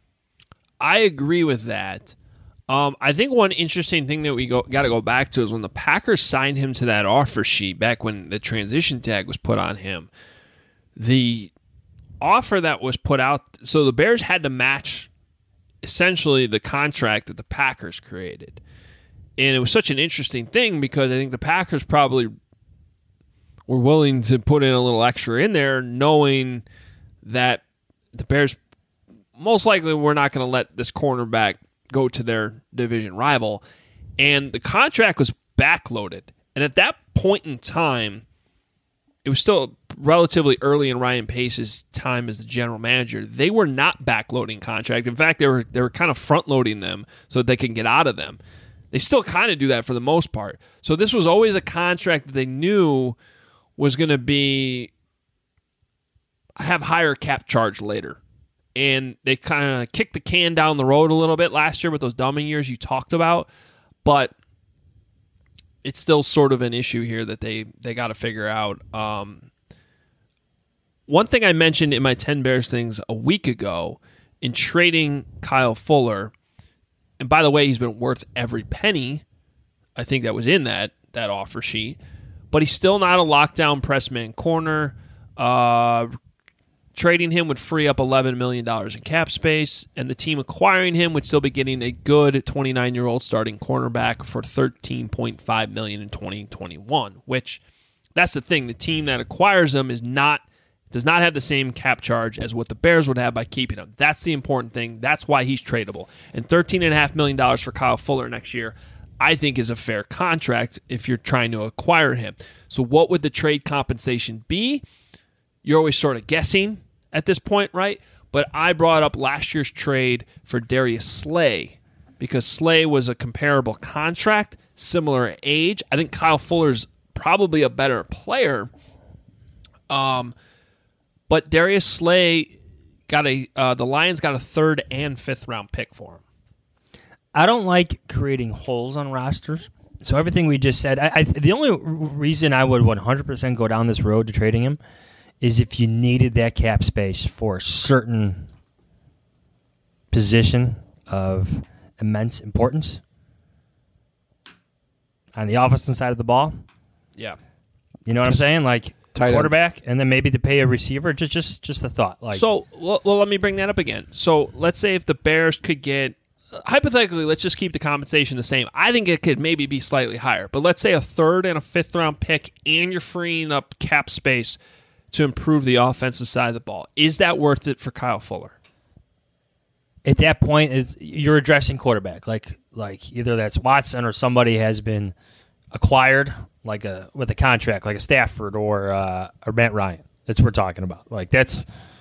I agree with that. Um, I think one interesting thing that we go, got to go back to is when the Packers signed him to that offer sheet back when the transition tag was put on him, the offer that was put out, so the Bears had to match essentially the contract that the Packers created. And it was such an interesting thing because I think the Packers probably were willing to put in a little extra in there knowing that the Bears most likely were not going to let this cornerback go to their division rival, and the contract was backloaded. And at that point in time, it was still relatively early in Ryan Pace's time as the general manager. They were not backloading contract. In fact, they were they were kind of front loading them so that they can get out of them. They still kind of do that for the most part. So this was always a contract that they knew was going to be have higher cap charge later. And they kind of kicked the can down the road a little bit last year with those dumbing years you talked about. But it's still sort of an issue here that they, they got to figure out. Um, one thing I mentioned in my ten Bears things a week ago in trading Kyle Fuller, and by the way, he's been worth every penny, I think that was in that, that offer sheet, but he's still not a lockdown press man corner. Uh Trading him would free up eleven million dollars in cap space, and the team acquiring him would still be getting a good twenty-nine-year-old starting cornerback for thirteen point five million dollars in twenty twenty-one, which that's the thing. The team that acquires him is not does not have the same cap charge as what the Bears would have by keeping him. That's the important thing. That's why he's tradable. And thirteen point five million dollars for Kyle Fuller next year, I think, is a fair contract if you're trying to acquire him. So what would the trade compensation be? You're always sort of guessing at this point, right? But I brought up last year's trade for Darius Slay because Slay was a comparable contract, similar age. I think Kyle Fuller's probably a better player. Um, but Darius Slay got a uh, the Lions got a third and fifth round pick for him. I don't like creating holes on rosters. So everything we just said, I, I, the only reason I would one hundred percent go down this road to trading him is if you needed that cap space for a certain position of immense importance on the offensive side of the ball. Yeah. You know what I'm saying? Like Tight quarterback, end. And then maybe to pay a receiver. Just just, just a thought. Like So, well, well, let me bring that up again. So let's say if the Bears could get, hypothetically, let's just keep the compensation the same. I think it could maybe be slightly higher. But let's say a third and a fifth round pick and you're freeing up cap space to improve the offensive side of the ball. Is that worth it for Kyle Fuller? At that point, is you're addressing quarterback, like like either that's Watson or somebody has been acquired, like a with a contract, like a Stafford or uh, or Matt Ryan. That's what we're talking about. Like that's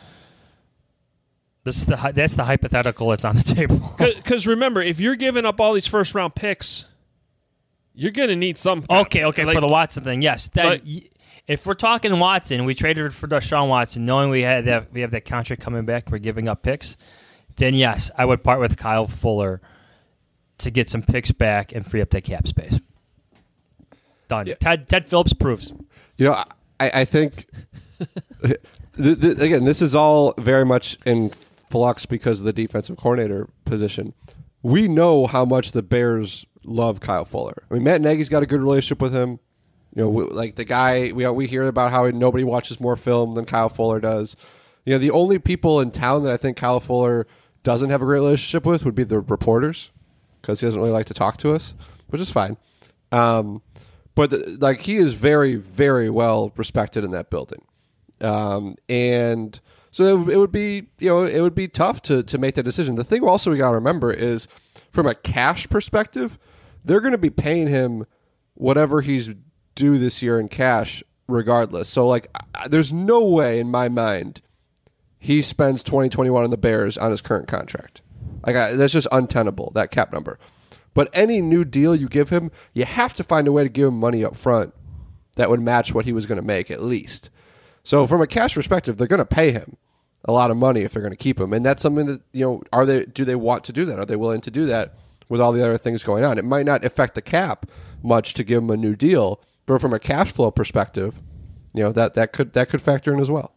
this is the that's the hypothetical that's on the table. Because remember, if you're giving up all these first round picks, you're going to need some. Okay, okay, like, for the Watson thing, yes. That, but, if we're talking Watson, we traded for Deshaun Watson, knowing we had that we have that contract coming back, we're giving up picks, then yes, I would part with Kyle Fuller to get some picks back and free up that cap space. Done. Yeah. Ted, Ted Phillips proves. You know, I, I think, th- th- again, this is all very much in flux because of the defensive coordinator position. We know how much the Bears love Kyle Fuller. I mean, Matt Nagy's got a good relationship with him. You know, we, like the guy we we hear about how nobody watches more film than Kyle Fuller does. You know, the only people in town that I think Kyle Fuller doesn't have a great relationship with would be the reporters, because he doesn't really like to talk to us, which is fine. Um, but the, like he is very, very well respected in that building, um, and so it, it would be you know it would be tough to to make that decision. The thing also we got to remember is, from a cash perspective, they're going to be paying him whatever he's due this year in cash, regardless. So like, I, there's no way in my mind he spends twenty twenty-one on the Bears on his current contract. Like I, that's just untenable, that cap number. But any new deal you give him, you have to find a way to give him money up front that would match what he was going to make at least. So from a cash perspective, they're going to pay him a lot of money if they're going to keep him, and that's something that you know. Are they? Do they want to do that? Are they willing to do that with all the other things going on? It might not affect the cap much to give him a new deal, but from a cash flow perspective, you know that that could that could factor in as well.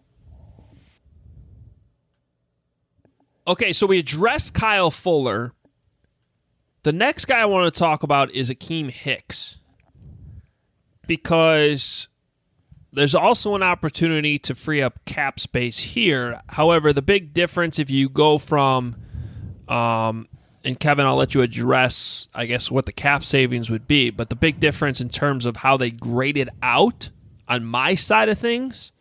Okay, so we addressed Kyle Fuller. The next guy I want to talk about is Akeem Hicks, because there's also an opportunity to free up cap space here. However, the big difference if you go from, um, and Kevin, I'll let you address, I guess, what the cap savings would be, but the big difference in terms of how they grade it out on my side of things,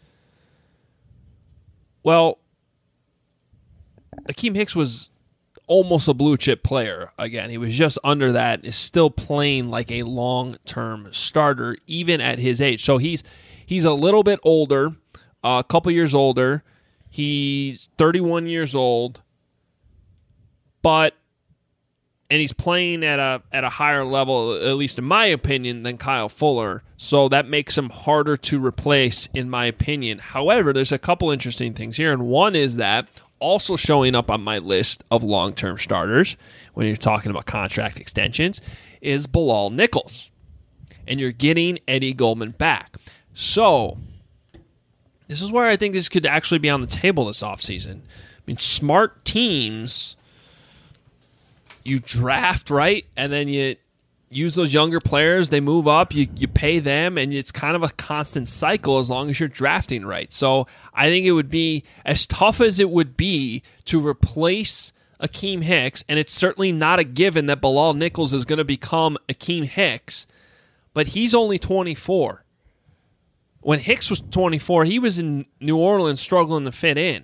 well, Akeem Hicks was almost a blue chip player. Again, he was just under that, is still playing like a long-term starter, even at his age. So he's he's a little bit older, uh, a couple years older. He's thirty-one years old, but and he's playing at a at a higher level, at least in my opinion, than Kyle Fuller. So that makes him harder to replace, in my opinion. However, there's a couple interesting things here, and one is that also showing up on my list of long-term starters when you're talking about contract extensions is Bilal Nichols. And you're getting Eddie Goldman back. So, this is where I think this could actually be on the table this offseason. I mean, smart teams, you draft, right? And then you use those younger players, they move up, you, you pay them, and it's kind of a constant cycle as long as you're drafting right. So I think it would be as tough as it would be to replace Akeem Hicks, and it's certainly not a given that Bilal Nichols is going to become Akeem Hicks, but he's only twenty-four. When Hicks was twenty-four, he was in New Orleans struggling to fit in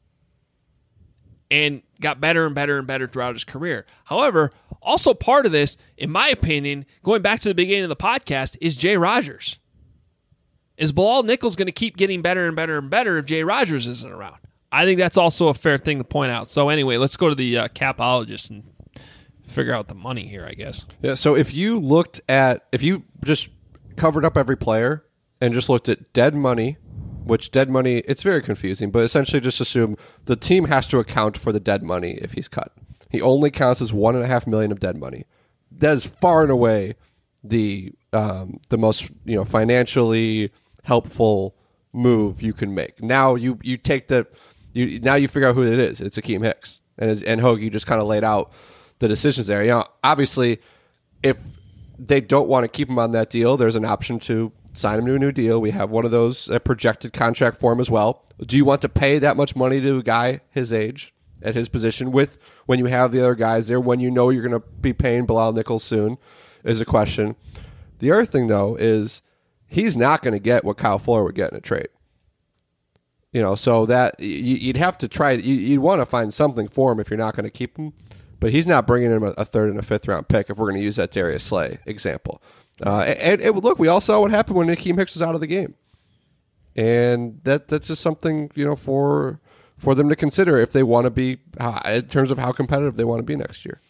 and got better and better and better throughout his career. However, also part of this, in my opinion, going back to the beginning of the podcast, is Jay Rogers. Is Bilal Nichols going to keep getting better and better and better if Jay Rogers isn't around? I think that's also a fair thing to point out. So anyway, let's go to the uh, capologist and figure out the money here, I guess. Yeah, so if you looked at, if you just covered up every player and just looked at dead money, which dead money, it's very confusing, but essentially just assume the team has to account for the dead money if he's cut. He only counts as one and a half million of dead money. That is far and away the um, the most you know financially helpful move you can make. Now you you take the you now you figure out who it is. It's Akeem Hicks, and as, and Hoagie just kind of laid out the decisions there. You know, obviously, if they don't want to keep him on that deal, there's an option to sign him to a new deal. We have one of those uh, projected contract for him as well. Do you want to pay that much money to a guy his age at his position with when you have the other guys there, when you know you're going to be paying Bilal Nichols soon, is a question. The other thing, though, is he's not going to get what Kyle Fuller would get in a trade. You know, so that you'd have to try, you'd want to find something for him if you're not going to keep him. But he's not bringing him a third and a fifth round pick if we're going to use that Darius Slay example. Uh, and, and look, we all saw what happened when Akeem Hicks was out of the game. And that that's just something, you know, for for them to consider if they want to be, uh, in terms of how competitive they want to be next year.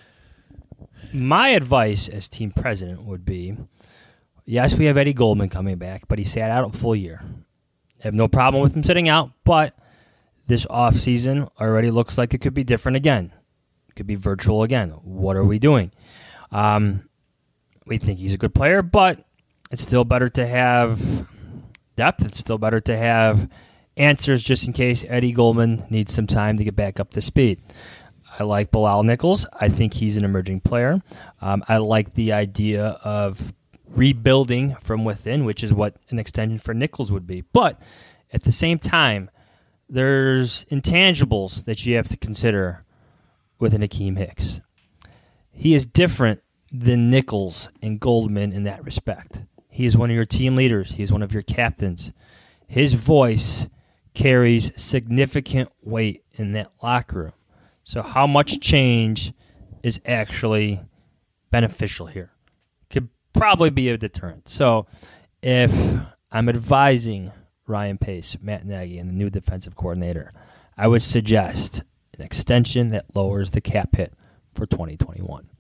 My advice as team president would be, yes, we have Eddie Goldman coming back, but he sat out a full year. I have no problem with him sitting out, but this offseason already looks like it could be different again. It could be virtual again. What are we doing? Um, we think he's a good player, but it's still better to have depth. It's still better to have answers just in case Eddie Goldman needs some time to get back up to speed. I like Bilal Nichols. I think he's an emerging player. Um, I like the idea of rebuilding from within, which is what an extension for Nichols would be. But at the same time, there's intangibles that you have to consider with an Akeem Hicks. He is different than Nichols and Goldman in that respect. He is one of your team leaders. He is one of your captains. His voice carries significant weight in that locker room. So how much change is actually beneficial here? Could probably be a deterrent. So if I'm advising Ryan Pace, Matt Nagy, and the new defensive coordinator, I would suggest an extension that lowers the cap hit for twenty twenty-one.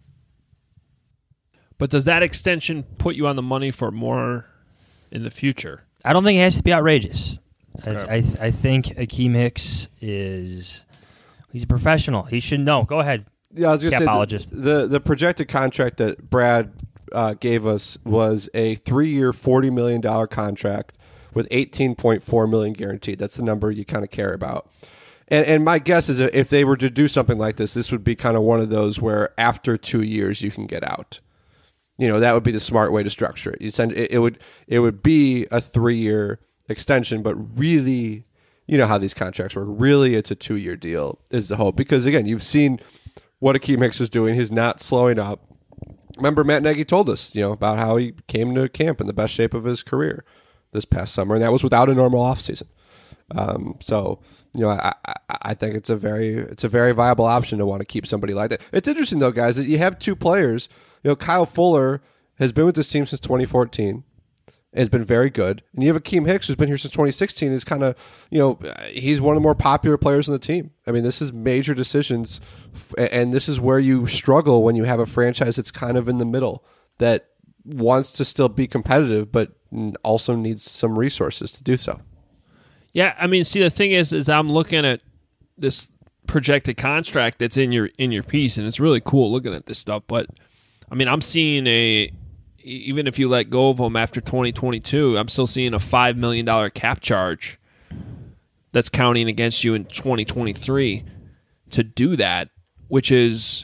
But does that extension put you on the money for more in the future? I don't think it has to be outrageous. Okay. I, I I think Akeem Hicks is he's a professional. He should know. Go ahead. Yeah, I was going to say capologist. the, the the projected contract that Brad uh, gave us was a three-year, forty million dollars contract with eighteen point four million dollars guaranteed. That's the number you kind of care about. And and my guess is that if they were to do something like this, this would be kind of one of those where after two years you can get out. You know, that would be the smart way to structure it. You send it, it would it would be a three-year extension, but really, you know how these contracts work. Really, it's a two-year deal is the hope. Because, again, you've seen what Akeem Hicks is doing. He's not slowing up. Remember, Matt Nagy told us, you know, about how he came to camp in the best shape of his career this past summer, and that was without a normal offseason. Um, so, you know, I, I I think it's a very it's a very viable option to want to keep somebody like that. It's interesting, though, guys, that you have two players. You know, Kyle Fuller has been with this team since twenty fourteen. Has been very good. And you have Akeem Hicks, who's been here since twenty sixteen, is kind of, you know, he's one of the more popular players on the team. I mean, this is major decisions, and this is where you struggle when you have a franchise that's kind of in the middle, that wants to still be competitive, but also needs some resources to do so. Yeah, I mean, see, the thing is, is I'm looking at this projected contract that's in your in your piece, and it's really cool looking at this stuff, but I mean, I'm seeing a, even if you let go of them after twenty twenty-two, I'm still seeing a five million dollars cap charge that's counting against you in twenty twenty-three to do that, which is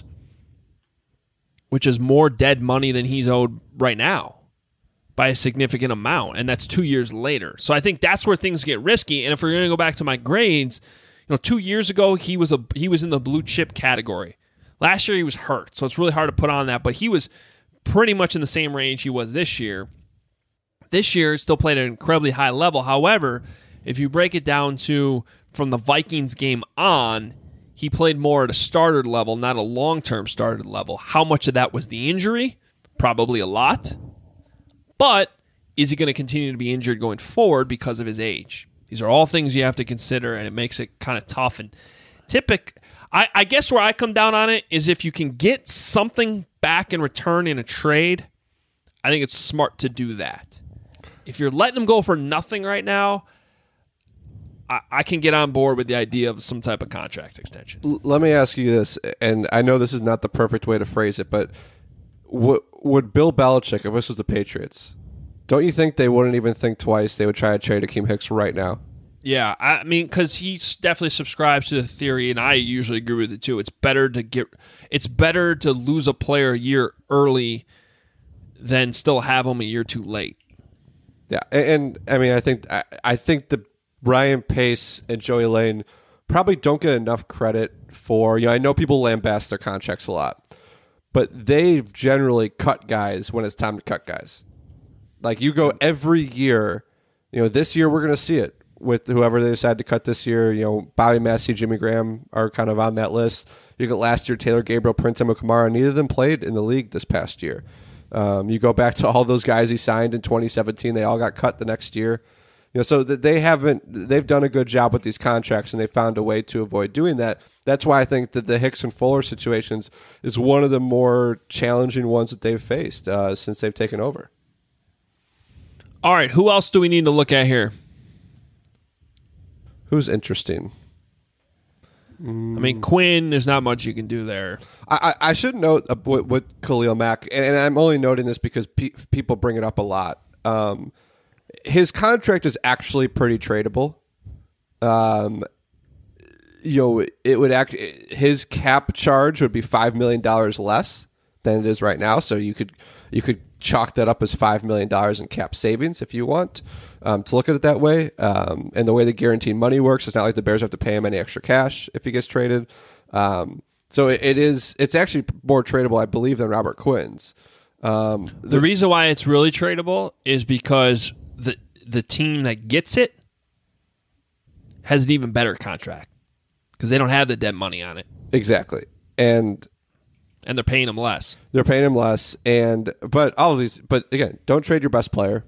which is more dead money than he's owed right now by a significant amount, and that's two years later. So I think that's where things get risky, and if we're going to go back to my grades, you know, two years ago, he was a he was in the blue chip category. Last year he was hurt, so it's really hard to put on that, but he was pretty much in the same range he was this year. This year, still played at an incredibly high level. However, if you break it down to from the Vikings game on, he played more at a starter level, not a long-term starter level. How much of that was the injury? Probably a lot. But is he going to continue to be injured going forward because of his age? These are all things you have to consider, and it makes it kind of tough. And typical, I, I guess where I come down on it is if you can get something back in return in a trade, I think it's smart to do that. If you're letting him go for nothing right now, I, I can get on board with the idea of some type of contract extension. L- let me ask you this, and I know this is not the perfect way to phrase it, but w- would Bill Belichick, if this was the Patriots, don't you think they wouldn't even think twice? They would try to trade Akeem Hicks right now. Yeah, I mean, because he definitely subscribes to the theory, and I usually agree with it too. It's better to get, it's better to lose a player a year early than still have him a year too late. Yeah, and, and I mean, I think I, I think the Ryan Pace and Joey Lane probably don't get enough credit for. You know, I know people lambast their contracts a lot, but they've generally cut guys when it's time to cut guys. Like you go every year. You know, this year we're going to see it with whoever they decide to cut this year. You know, Bobby Massey, Jimmy Graham are kind of on that list. You get last year, Taylor Gabriel, Prince Amukamara. Neither of them played in the league this past year. Um, you go back to all those guys he signed in twenty seventeen. They all got cut the next year. You know, so that they haven't. They've done a good job with these contracts, and they found a way to avoid doing that. That's why I think that the Hicks and Fuller situations is one of the more challenging ones that they've faced uh, since they've taken over. All right, who else do we need to look at here? Who's interesting? I mean, Quinn, there's not much you can do there. I, I, I should note uh, with, with Khalil Mack, and, and I'm only noting this because pe- people bring it up a lot. Um, his contract is actually pretty tradable. Um, you know, it would act. His cap charge would be five million dollars less than it is right now. So you could you could chalk that up as five million dollars in cap savings if you want um, to look at it that way. Um, and the way the guaranteed money works, it's not like the Bears have to pay him any extra cash if he gets traded. Um, so it, it is, it's actually more tradable, I believe, than Robert Quinn's. Um, the, the reason why it's really tradable is because the the team that gets it has an even better contract because they don't have the dead money on it. Exactly. And and they're paying him less. They're paying him less. And but all of these but again, don't trade your best player.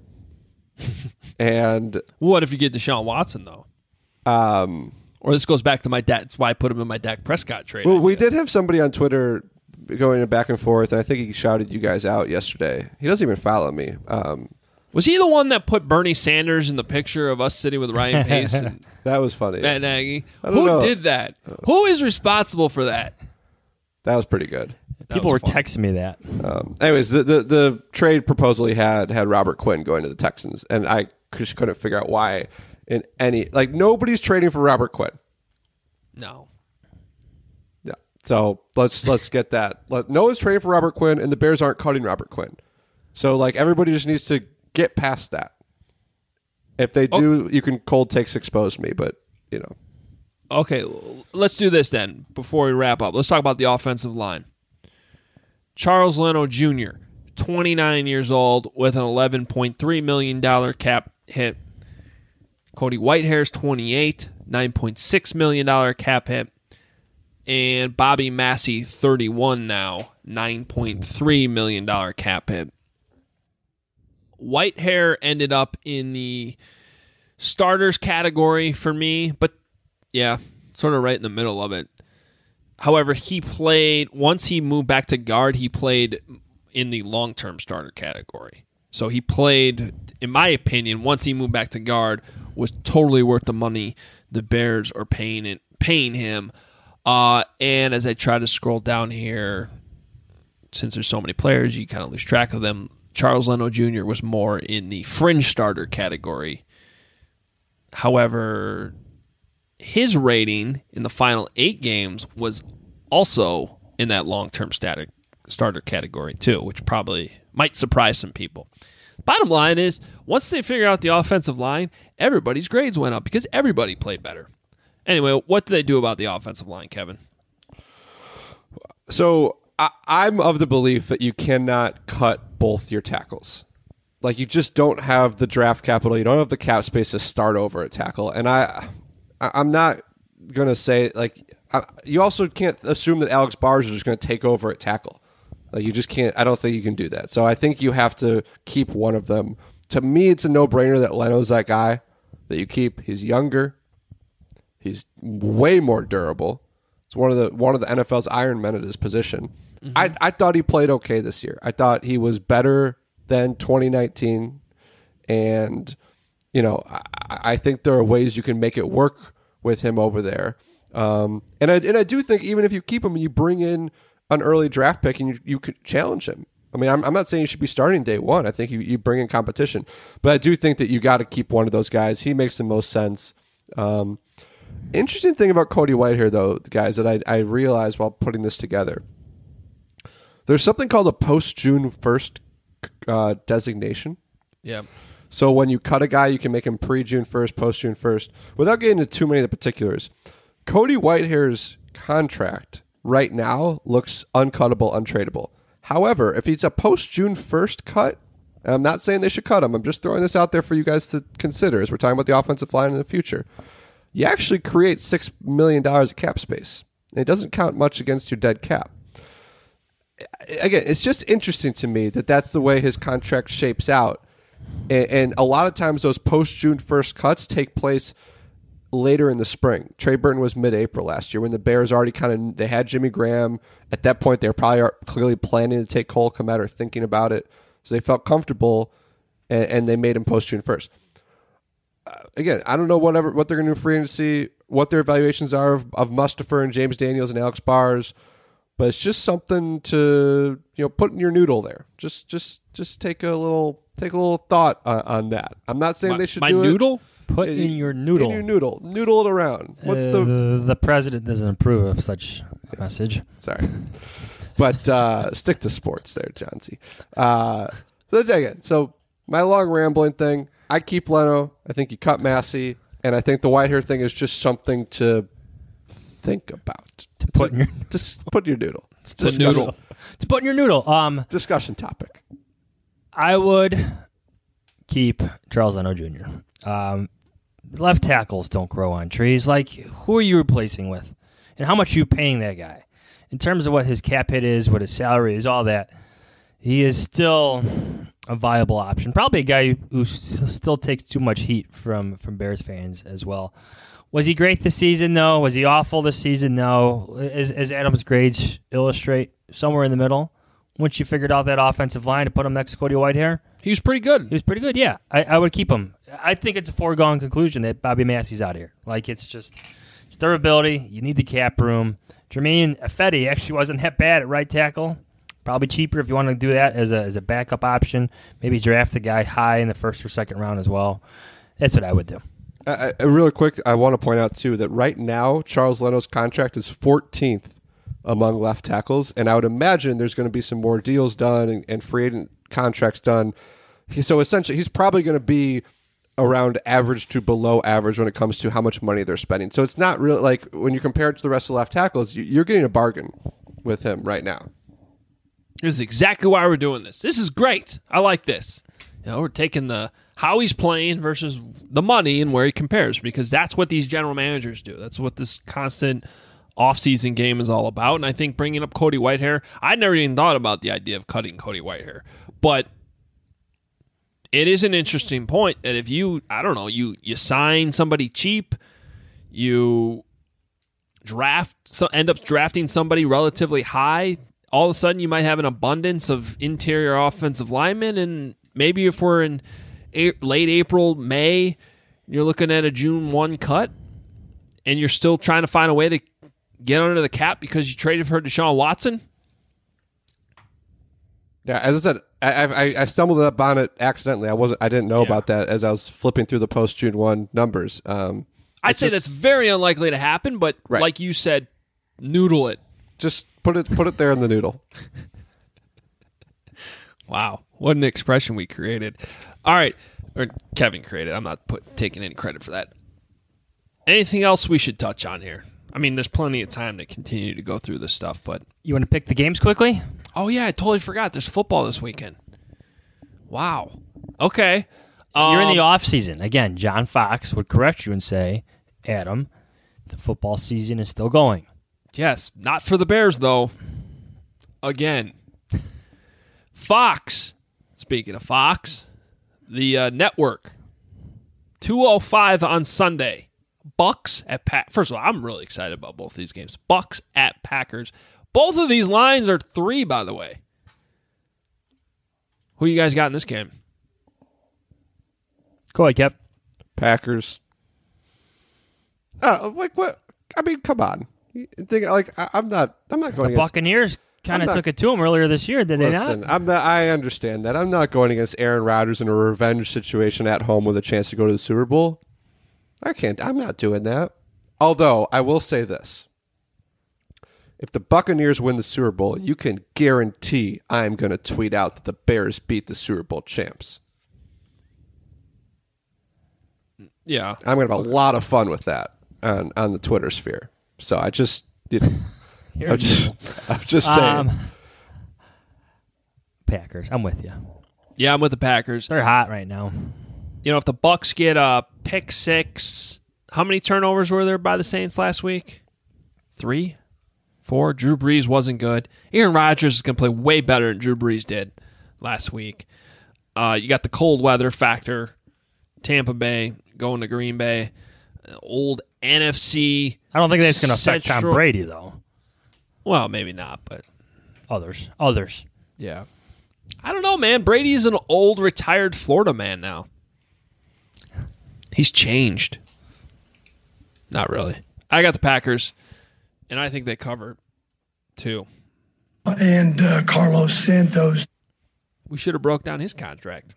And what if you get Deshaun Watson though? Um or this goes back to my dad. That's why I put him in my Dak Prescott trade. Well, idea. we did have somebody on Twitter going back and forth, and I think he shouted you guys out yesterday. He doesn't even follow me. Um, was he the one that put Bernie Sanders in the picture of us sitting with Ryan Pace? And that was funny. Matt Nagy. Who know. did that? Who is responsible for that? That was pretty good. That People were fun. texting me that. Um, anyways, the, the the trade proposal he had had Robert Quinn going to the Texans, and I just couldn't figure out why in any like nobody's trading for Robert Quinn. No. Yeah. So let's let's get that. Let, no one's trading for Robert Quinn, and the Bears aren't cutting Robert Quinn. So like everybody just needs to get past that. If they do, oh. you can cold takes expose me, but you know. Okay, let's do this then before we wrap up. Let's talk about the offensive line. Charles Leno Junior, twenty-nine years old with an eleven point three million dollars cap hit. Cody Whitehair's twenty-eight, nine point six million dollars cap hit. And Bobby Massey, thirty-one now, nine point three million dollars cap hit. Whitehair ended up in the starters category for me, but yeah, sort of right in the middle of it. However, he played, once he moved back to guard, he played in the long-term starter category. So he played, in my opinion, once he moved back to guard, was totally worth the money the Bears are paying it, paying him. Uh, and as I try to scroll down here, since there's so many players, you kind of lose track of them. Charles Leno Junior was more in the fringe starter category. However, his rating in the final eight games was also in that long-term static starter category too, which probably might surprise some people. Bottom line is, once they figure out the offensive line, everybody's grades went up because everybody played better. Anyway, what do they do about the offensive line, Kevin? So I, I'm of the belief that you cannot cut both your tackles. Like, you just don't have the draft capital. You don't have the cap space to start over a tackle. And I... I'm not going to say, like, I, you also can't assume that Alex Bars is just going to take over at tackle. Like, you just can't, I don't think you can do that. So I think you have to keep one of them. To me, it's a no-brainer that Leno's that guy that you keep. He's younger. He's way more durable. It's one of the one of the N F L's iron men at his position. Mm-hmm. I, I thought he played okay this year. I thought he was better than twenty nineteen, and you know, I, I think there are ways you can make it work with him over there. Um, and I and I do think even if you keep him and you bring in an early draft pick and you, you could challenge him. I mean, I'm, I'm not saying you should be starting day one. I think you, you bring in competition. But I do think that you got to keep one of those guys. He makes the most sense. Um, interesting thing about Cody Whitehair, though, guys, that I, I realized while putting this together. There's something called a post-June first uh, designation. Yeah. So when you cut a guy, you can make him pre-June first, post-June first. Without getting into too many of the particulars, Cody Whitehair's contract right now looks uncuttable, untradeable. However, if he's a post-June first cut, and I'm not saying they should cut him, I'm just throwing this out there for you guys to consider as we're talking about the offensive line in the future. You actually create six million dollars of cap space. And it doesn't count much against your dead cap. Again, it's just interesting to me that that's the way his contract shapes out. And, and a lot of times those post-June first cuts take place later in the spring. Trey Burton was mid-April last year when the Bears already kind of, they had Jimmy Graham. At that point, they were probably clearly planning to take Cole Kmet or thinking about it. So they felt comfortable, and, and they made him post-June first. Uh, again, I don't know whatever what they're going to do free agency, what their evaluations are of, of Mustipher and James Daniels and Alex Bars, but it's just something to, you know, put in your noodle there. Just just just take a little take a little thought on, on that. I'm not saying my, they should my do noodle? it. Put in your noodle. In your noodle. Noodle it around. What's uh, the the president doesn't approve of such a message. Sorry. But uh, stick to sports there, John C. Uh, So again, so my long rambling thing, I keep Leno. I think you cut Massey, and I think the Whitehair thing is just something to think about. To put in your just put in your noodle. It's the noodle. To put in your noodle. Um, discussion topic. I would keep Charles Leno Junior Um, left tackles don't grow on trees. Like, who are you replacing with? And how much are you paying that guy? In terms of what his cap hit is, what his salary is, all that, he is still a viable option. Probably a guy who still takes too much heat from, from Bears fans as well. Was he great this season? No. Was he awful this season? No. As, as Adam's grades illustrate, somewhere in the middle. Once you figured out that offensive line to put him next to Cody Whitehair, he was pretty good. He was pretty good, yeah. I, I would keep him. I think it's a foregone conclusion that Bobby Massey's out here. Like, it's just it's durability. You need the cap room. Jermaine Ifedi actually wasn't that bad at right tackle. Probably cheaper if you want to do that as a as a backup option. Maybe draft the guy high in the first or second round as well. That's what I would do. Uh, uh, really quick, I want to point out, too, that right now, Charles Leno's contract is fourteenth among left tackles, and I would imagine there's going to be some more deals done and, and free agent contracts done. He, so essentially, he's probably going to be around average to below average when it comes to how much money they're spending. So it's not really like when you compare it to the rest of the left tackles, you, you're getting a bargain with him right now. This is exactly why we're doing this. This is great. I like this. You know, we're taking the how he's playing versus the money and where he compares, because that's what these general managers do. That's what this constant offseason game is all about. And I think bringing up Cody Whitehair, I never even thought about the idea of cutting Cody Whitehair, but it is an interesting point that if you, I don't know, you you sign somebody cheap, you draft, so end up drafting somebody relatively high, all of a sudden you might have an abundance of interior offensive linemen, and maybe if we're in a- late April, May, you're looking at a June first cut, and you're still trying to find a way to get under the cap because you traded for Deshaun Watson. Yeah, as I said, I I, I stumbled up on it accidentally. I wasn't. I didn't know Yeah. about that as I was flipping through the post June first numbers. Um, I'd it's say just- that's very unlikely to happen, but Right. like you said, noodle it. Just put it put it there in the noodle. Wow, what an expression we created. All right, or Kevin created. I'm not put, taking any credit for that. Anything else we should touch on here? I mean, there's plenty of time to continue to go through this stuff, but You want to pick the games quickly? oh yeah, I totally forgot. There's football this weekend. Wow. Okay. You're in the Um, off season. Again, John Fox would correct you and say, Adam, the football season is still going. Yes, not for the Bears, though. Again. Fox. Speaking of Fox, the uh, network. two oh five on Sunday. Bucks at Pack. First of all, I'm really excited about both these games. Bucks at Packers. Both of these lines are three, by the way. Who you guys got in this game? Go ahead, Kev. Packers. Uh, like what? I mean, come on. You think like I, I'm not. I'm not going. The against, Buccaneers kind I'm of not- took it to them earlier this year, did they Listen, not? I'm not. I understand that. I'm not going against Aaron Rodgers in a revenge situation at home with a chance to go to the Super Bowl. I can't. I'm not doing that. Although I will say this: if the Buccaneers win the Super Bowl, you can guarantee I'm going to tweet out that the Bears beat the Super Bowl champs. Yeah. I'm going to have a lot of fun with that on, on the Twitter sphere. So I just, you know, You're I'm just, I'm just saying. Um, Packers. I'm with you. Yeah, I'm with the Packers. They're hot right now. You know, if the Bucks get a pick six, how many turnovers were there by the Saints last week? Three? Four? Drew Brees wasn't good. Aaron Rodgers is going to play way better than Drew Brees did last week. Uh, you got the cold weather factor. Tampa Bay going to Green Bay. Old N F C. I don't think that's going to affect Tom Central- Brady, though. Well, maybe not, but Others. Others. yeah. I don't know, man. Brady's an old, retired Florida man now. He's changed. Not really. I got the Packers, and I think they cover, too. And uh, Carlos Santos. We should have broke down his contract.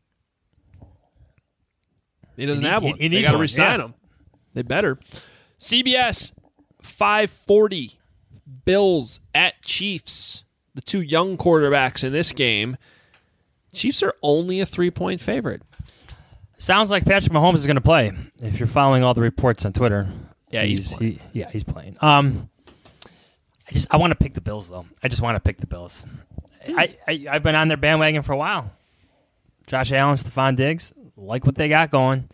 He doesn't He need- have he- one. he They needs got to one, re-sign yeah. him. They better. C B S, five forty. Bills at Chiefs. The two young quarterbacks in this game. Chiefs are only a three-point favorite. Sounds like Patrick Mahomes is going to play. If you're following all the reports on Twitter, yeah, he's, he's he, yeah he's playing. Um, I just I want to pick the Bills though. I just want to pick the Bills. I, I I've been on their bandwagon for a while. Josh Allen, Stephon Diggs, like what they got going.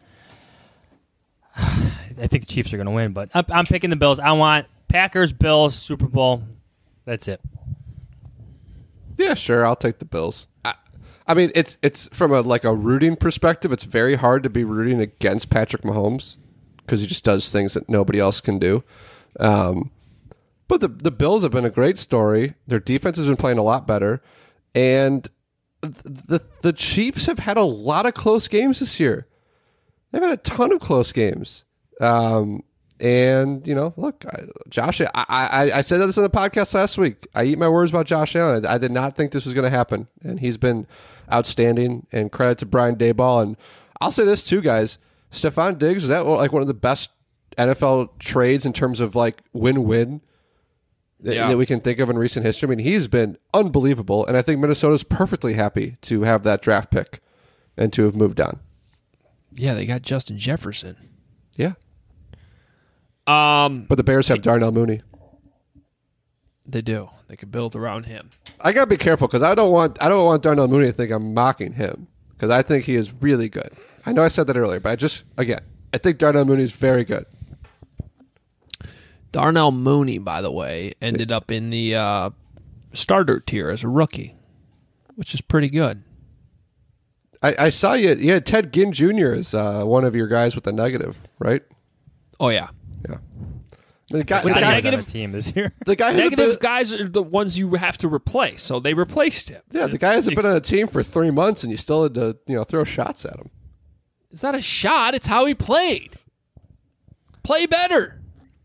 I think the Chiefs are going to win, but I'm, I'm picking the Bills. I want Packers, Bills, Super Bowl. That's it. Yeah, sure. I'll take the Bills. I, I mean, it's it's from a like a rooting perspective. It's very hard to be rooting against Patrick Mahomes because he just does things that nobody else can do. Um, but the the Bills have been a great story. Their defense has been playing a lot better, and the the Chiefs have had a lot of close games this year. They've had a ton of close games. Um, and, you know, look, I, Josh, I, I, I said this on the podcast last week. I eat my words about Josh Allen. I, I did not think this was going to happen. And he's been outstanding. And credit to Brian Daboll. And I'll say this too, guys. Stephon Diggs, is that like one of the best N F L trades in terms of like win-win that, yeah. that we can think of in recent history? I mean, he's been unbelievable. And I think Minnesota's perfectly happy to have that draft pick and to have moved on. Yeah, they got Justin Jefferson. Yeah. Um, but the Bears have Darnell Mooney. They do. They can build around him. I gotta be careful because I don't want I don't want Darnell Mooney to think I'm mocking him because I think he is really good. I know I said that earlier, but I just again I think Darnell Mooney is very good. Darnell Mooney, by the way, ended up in the uh, starter tier as a rookie, which is pretty good. I, I saw you. You had Ted Ginn Junior as uh, one of your guys with a negative, right? Oh yeah, yeah. The guy, the the guy guy, negative team this year. The guy negative been, guys are the ones you have to replace, so they replaced him. Yeah, the guy hasn't been on a team for three months, and you still had to, you know, throw shots at him. It's not a shot; it's how he played. Play better.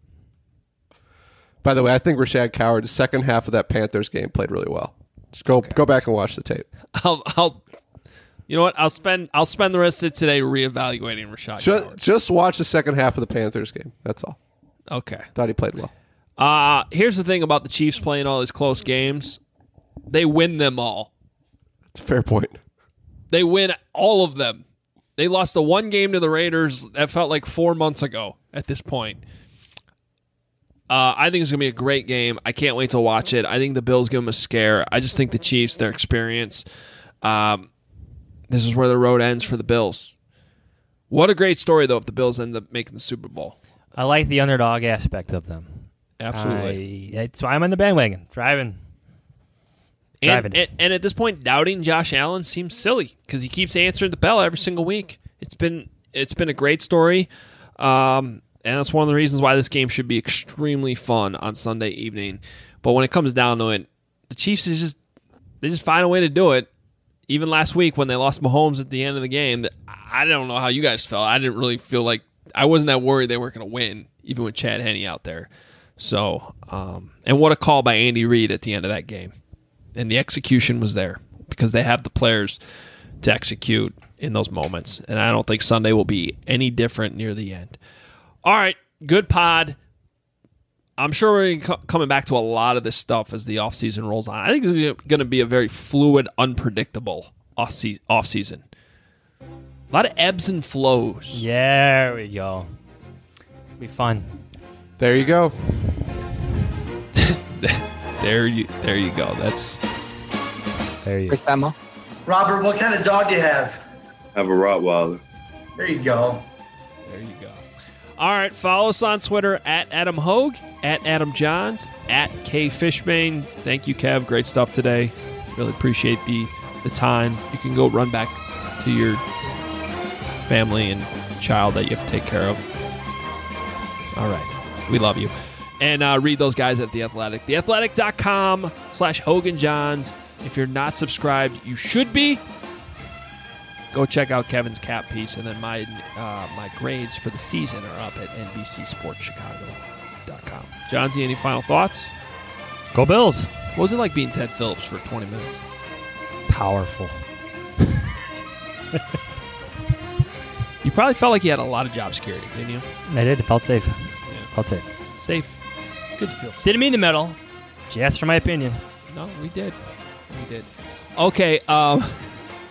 By the way, I think Rashad Coward, the second half of that Panthers game, played really well. Just go okay. go back and watch the tape. I'll. I'll You know what? I'll spend I'll spend the rest of today reevaluating Rashad. Just, just watch the second half of the Panthers game. That's all. Okay. Thought he played well. Uh, here's the thing about the Chiefs playing all these close games. They win them all. That's a fair point. They win all of them. They lost the one game to the Raiders that felt like four months ago at this point. Uh, I think it's going to be a great game. I can't wait to watch it. I think the Bills give them a scare. I just think the Chiefs, their experience... Um, This is where the road ends for the Bills. What a great story, though, if the Bills end up making the Super Bowl. I like the underdog aspect of them. Absolutely. I, that's why I'm on the bandwagon. Driving. Driving. And, and, and at this point, doubting Josh Allen seems silly because he keeps answering the bell every single week. It's been it's been a great story, um, and that's one of the reasons why this game should be extremely fun on Sunday evening. But when it comes down to it, the Chiefs is just they just find a way to do it. Even last week when they lost Mahomes at the end of the game, I don't know how you guys felt. I didn't really feel like I wasn't that worried they weren't going to win, even with Chad Henne out there. So, um, and what a call by Andy Reid at the end of that game. And the execution was there because they have the players to execute in those moments. And I don't think Sunday will be any different near the end. All right, good pod. I'm sure we're coming back to a lot of this stuff as the offseason rolls on. I think it's going to be a very fluid, unpredictable offseason. A lot of ebbs and flows. There we go. It'll be fun. There you go. there you there you go. That's there you go. Emma. Robert, what kind of dog do you have? I have a Rottweiler. There you go. There you go. All right, follow us on Twitter at Adam Hogue, at Adam Johns, at K Fishbane. Thank you, Kev. Great stuff today. Really appreciate the the time. You can go run back to your family and child that you have to take care of. All right. We love you. And uh, read those guys at The Athletic. theathletic.com slash Hogan Johns. If you're not subscribed, you should be. Go check out Kevin's cap piece, and then my uh, my grades for the season are up at N B C Sports Chicago dot com. Johnsy, any final thoughts? Go Bills. What was it like being Ted Phillips for twenty minutes? Powerful. You probably felt like you had a lot of job security, didn't you? I did. It felt safe. Yeah. Felt safe. Safe. Good to feel safe. Didn't mean to meddle. Just asked for my opinion. No, we did. We did. Okay. Um,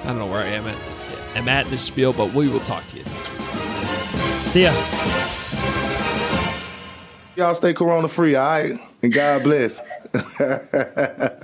I don't know where I am at, am at this spiel, but we will talk to you next week. See ya. Y'all stay corona free, all right? And God bless.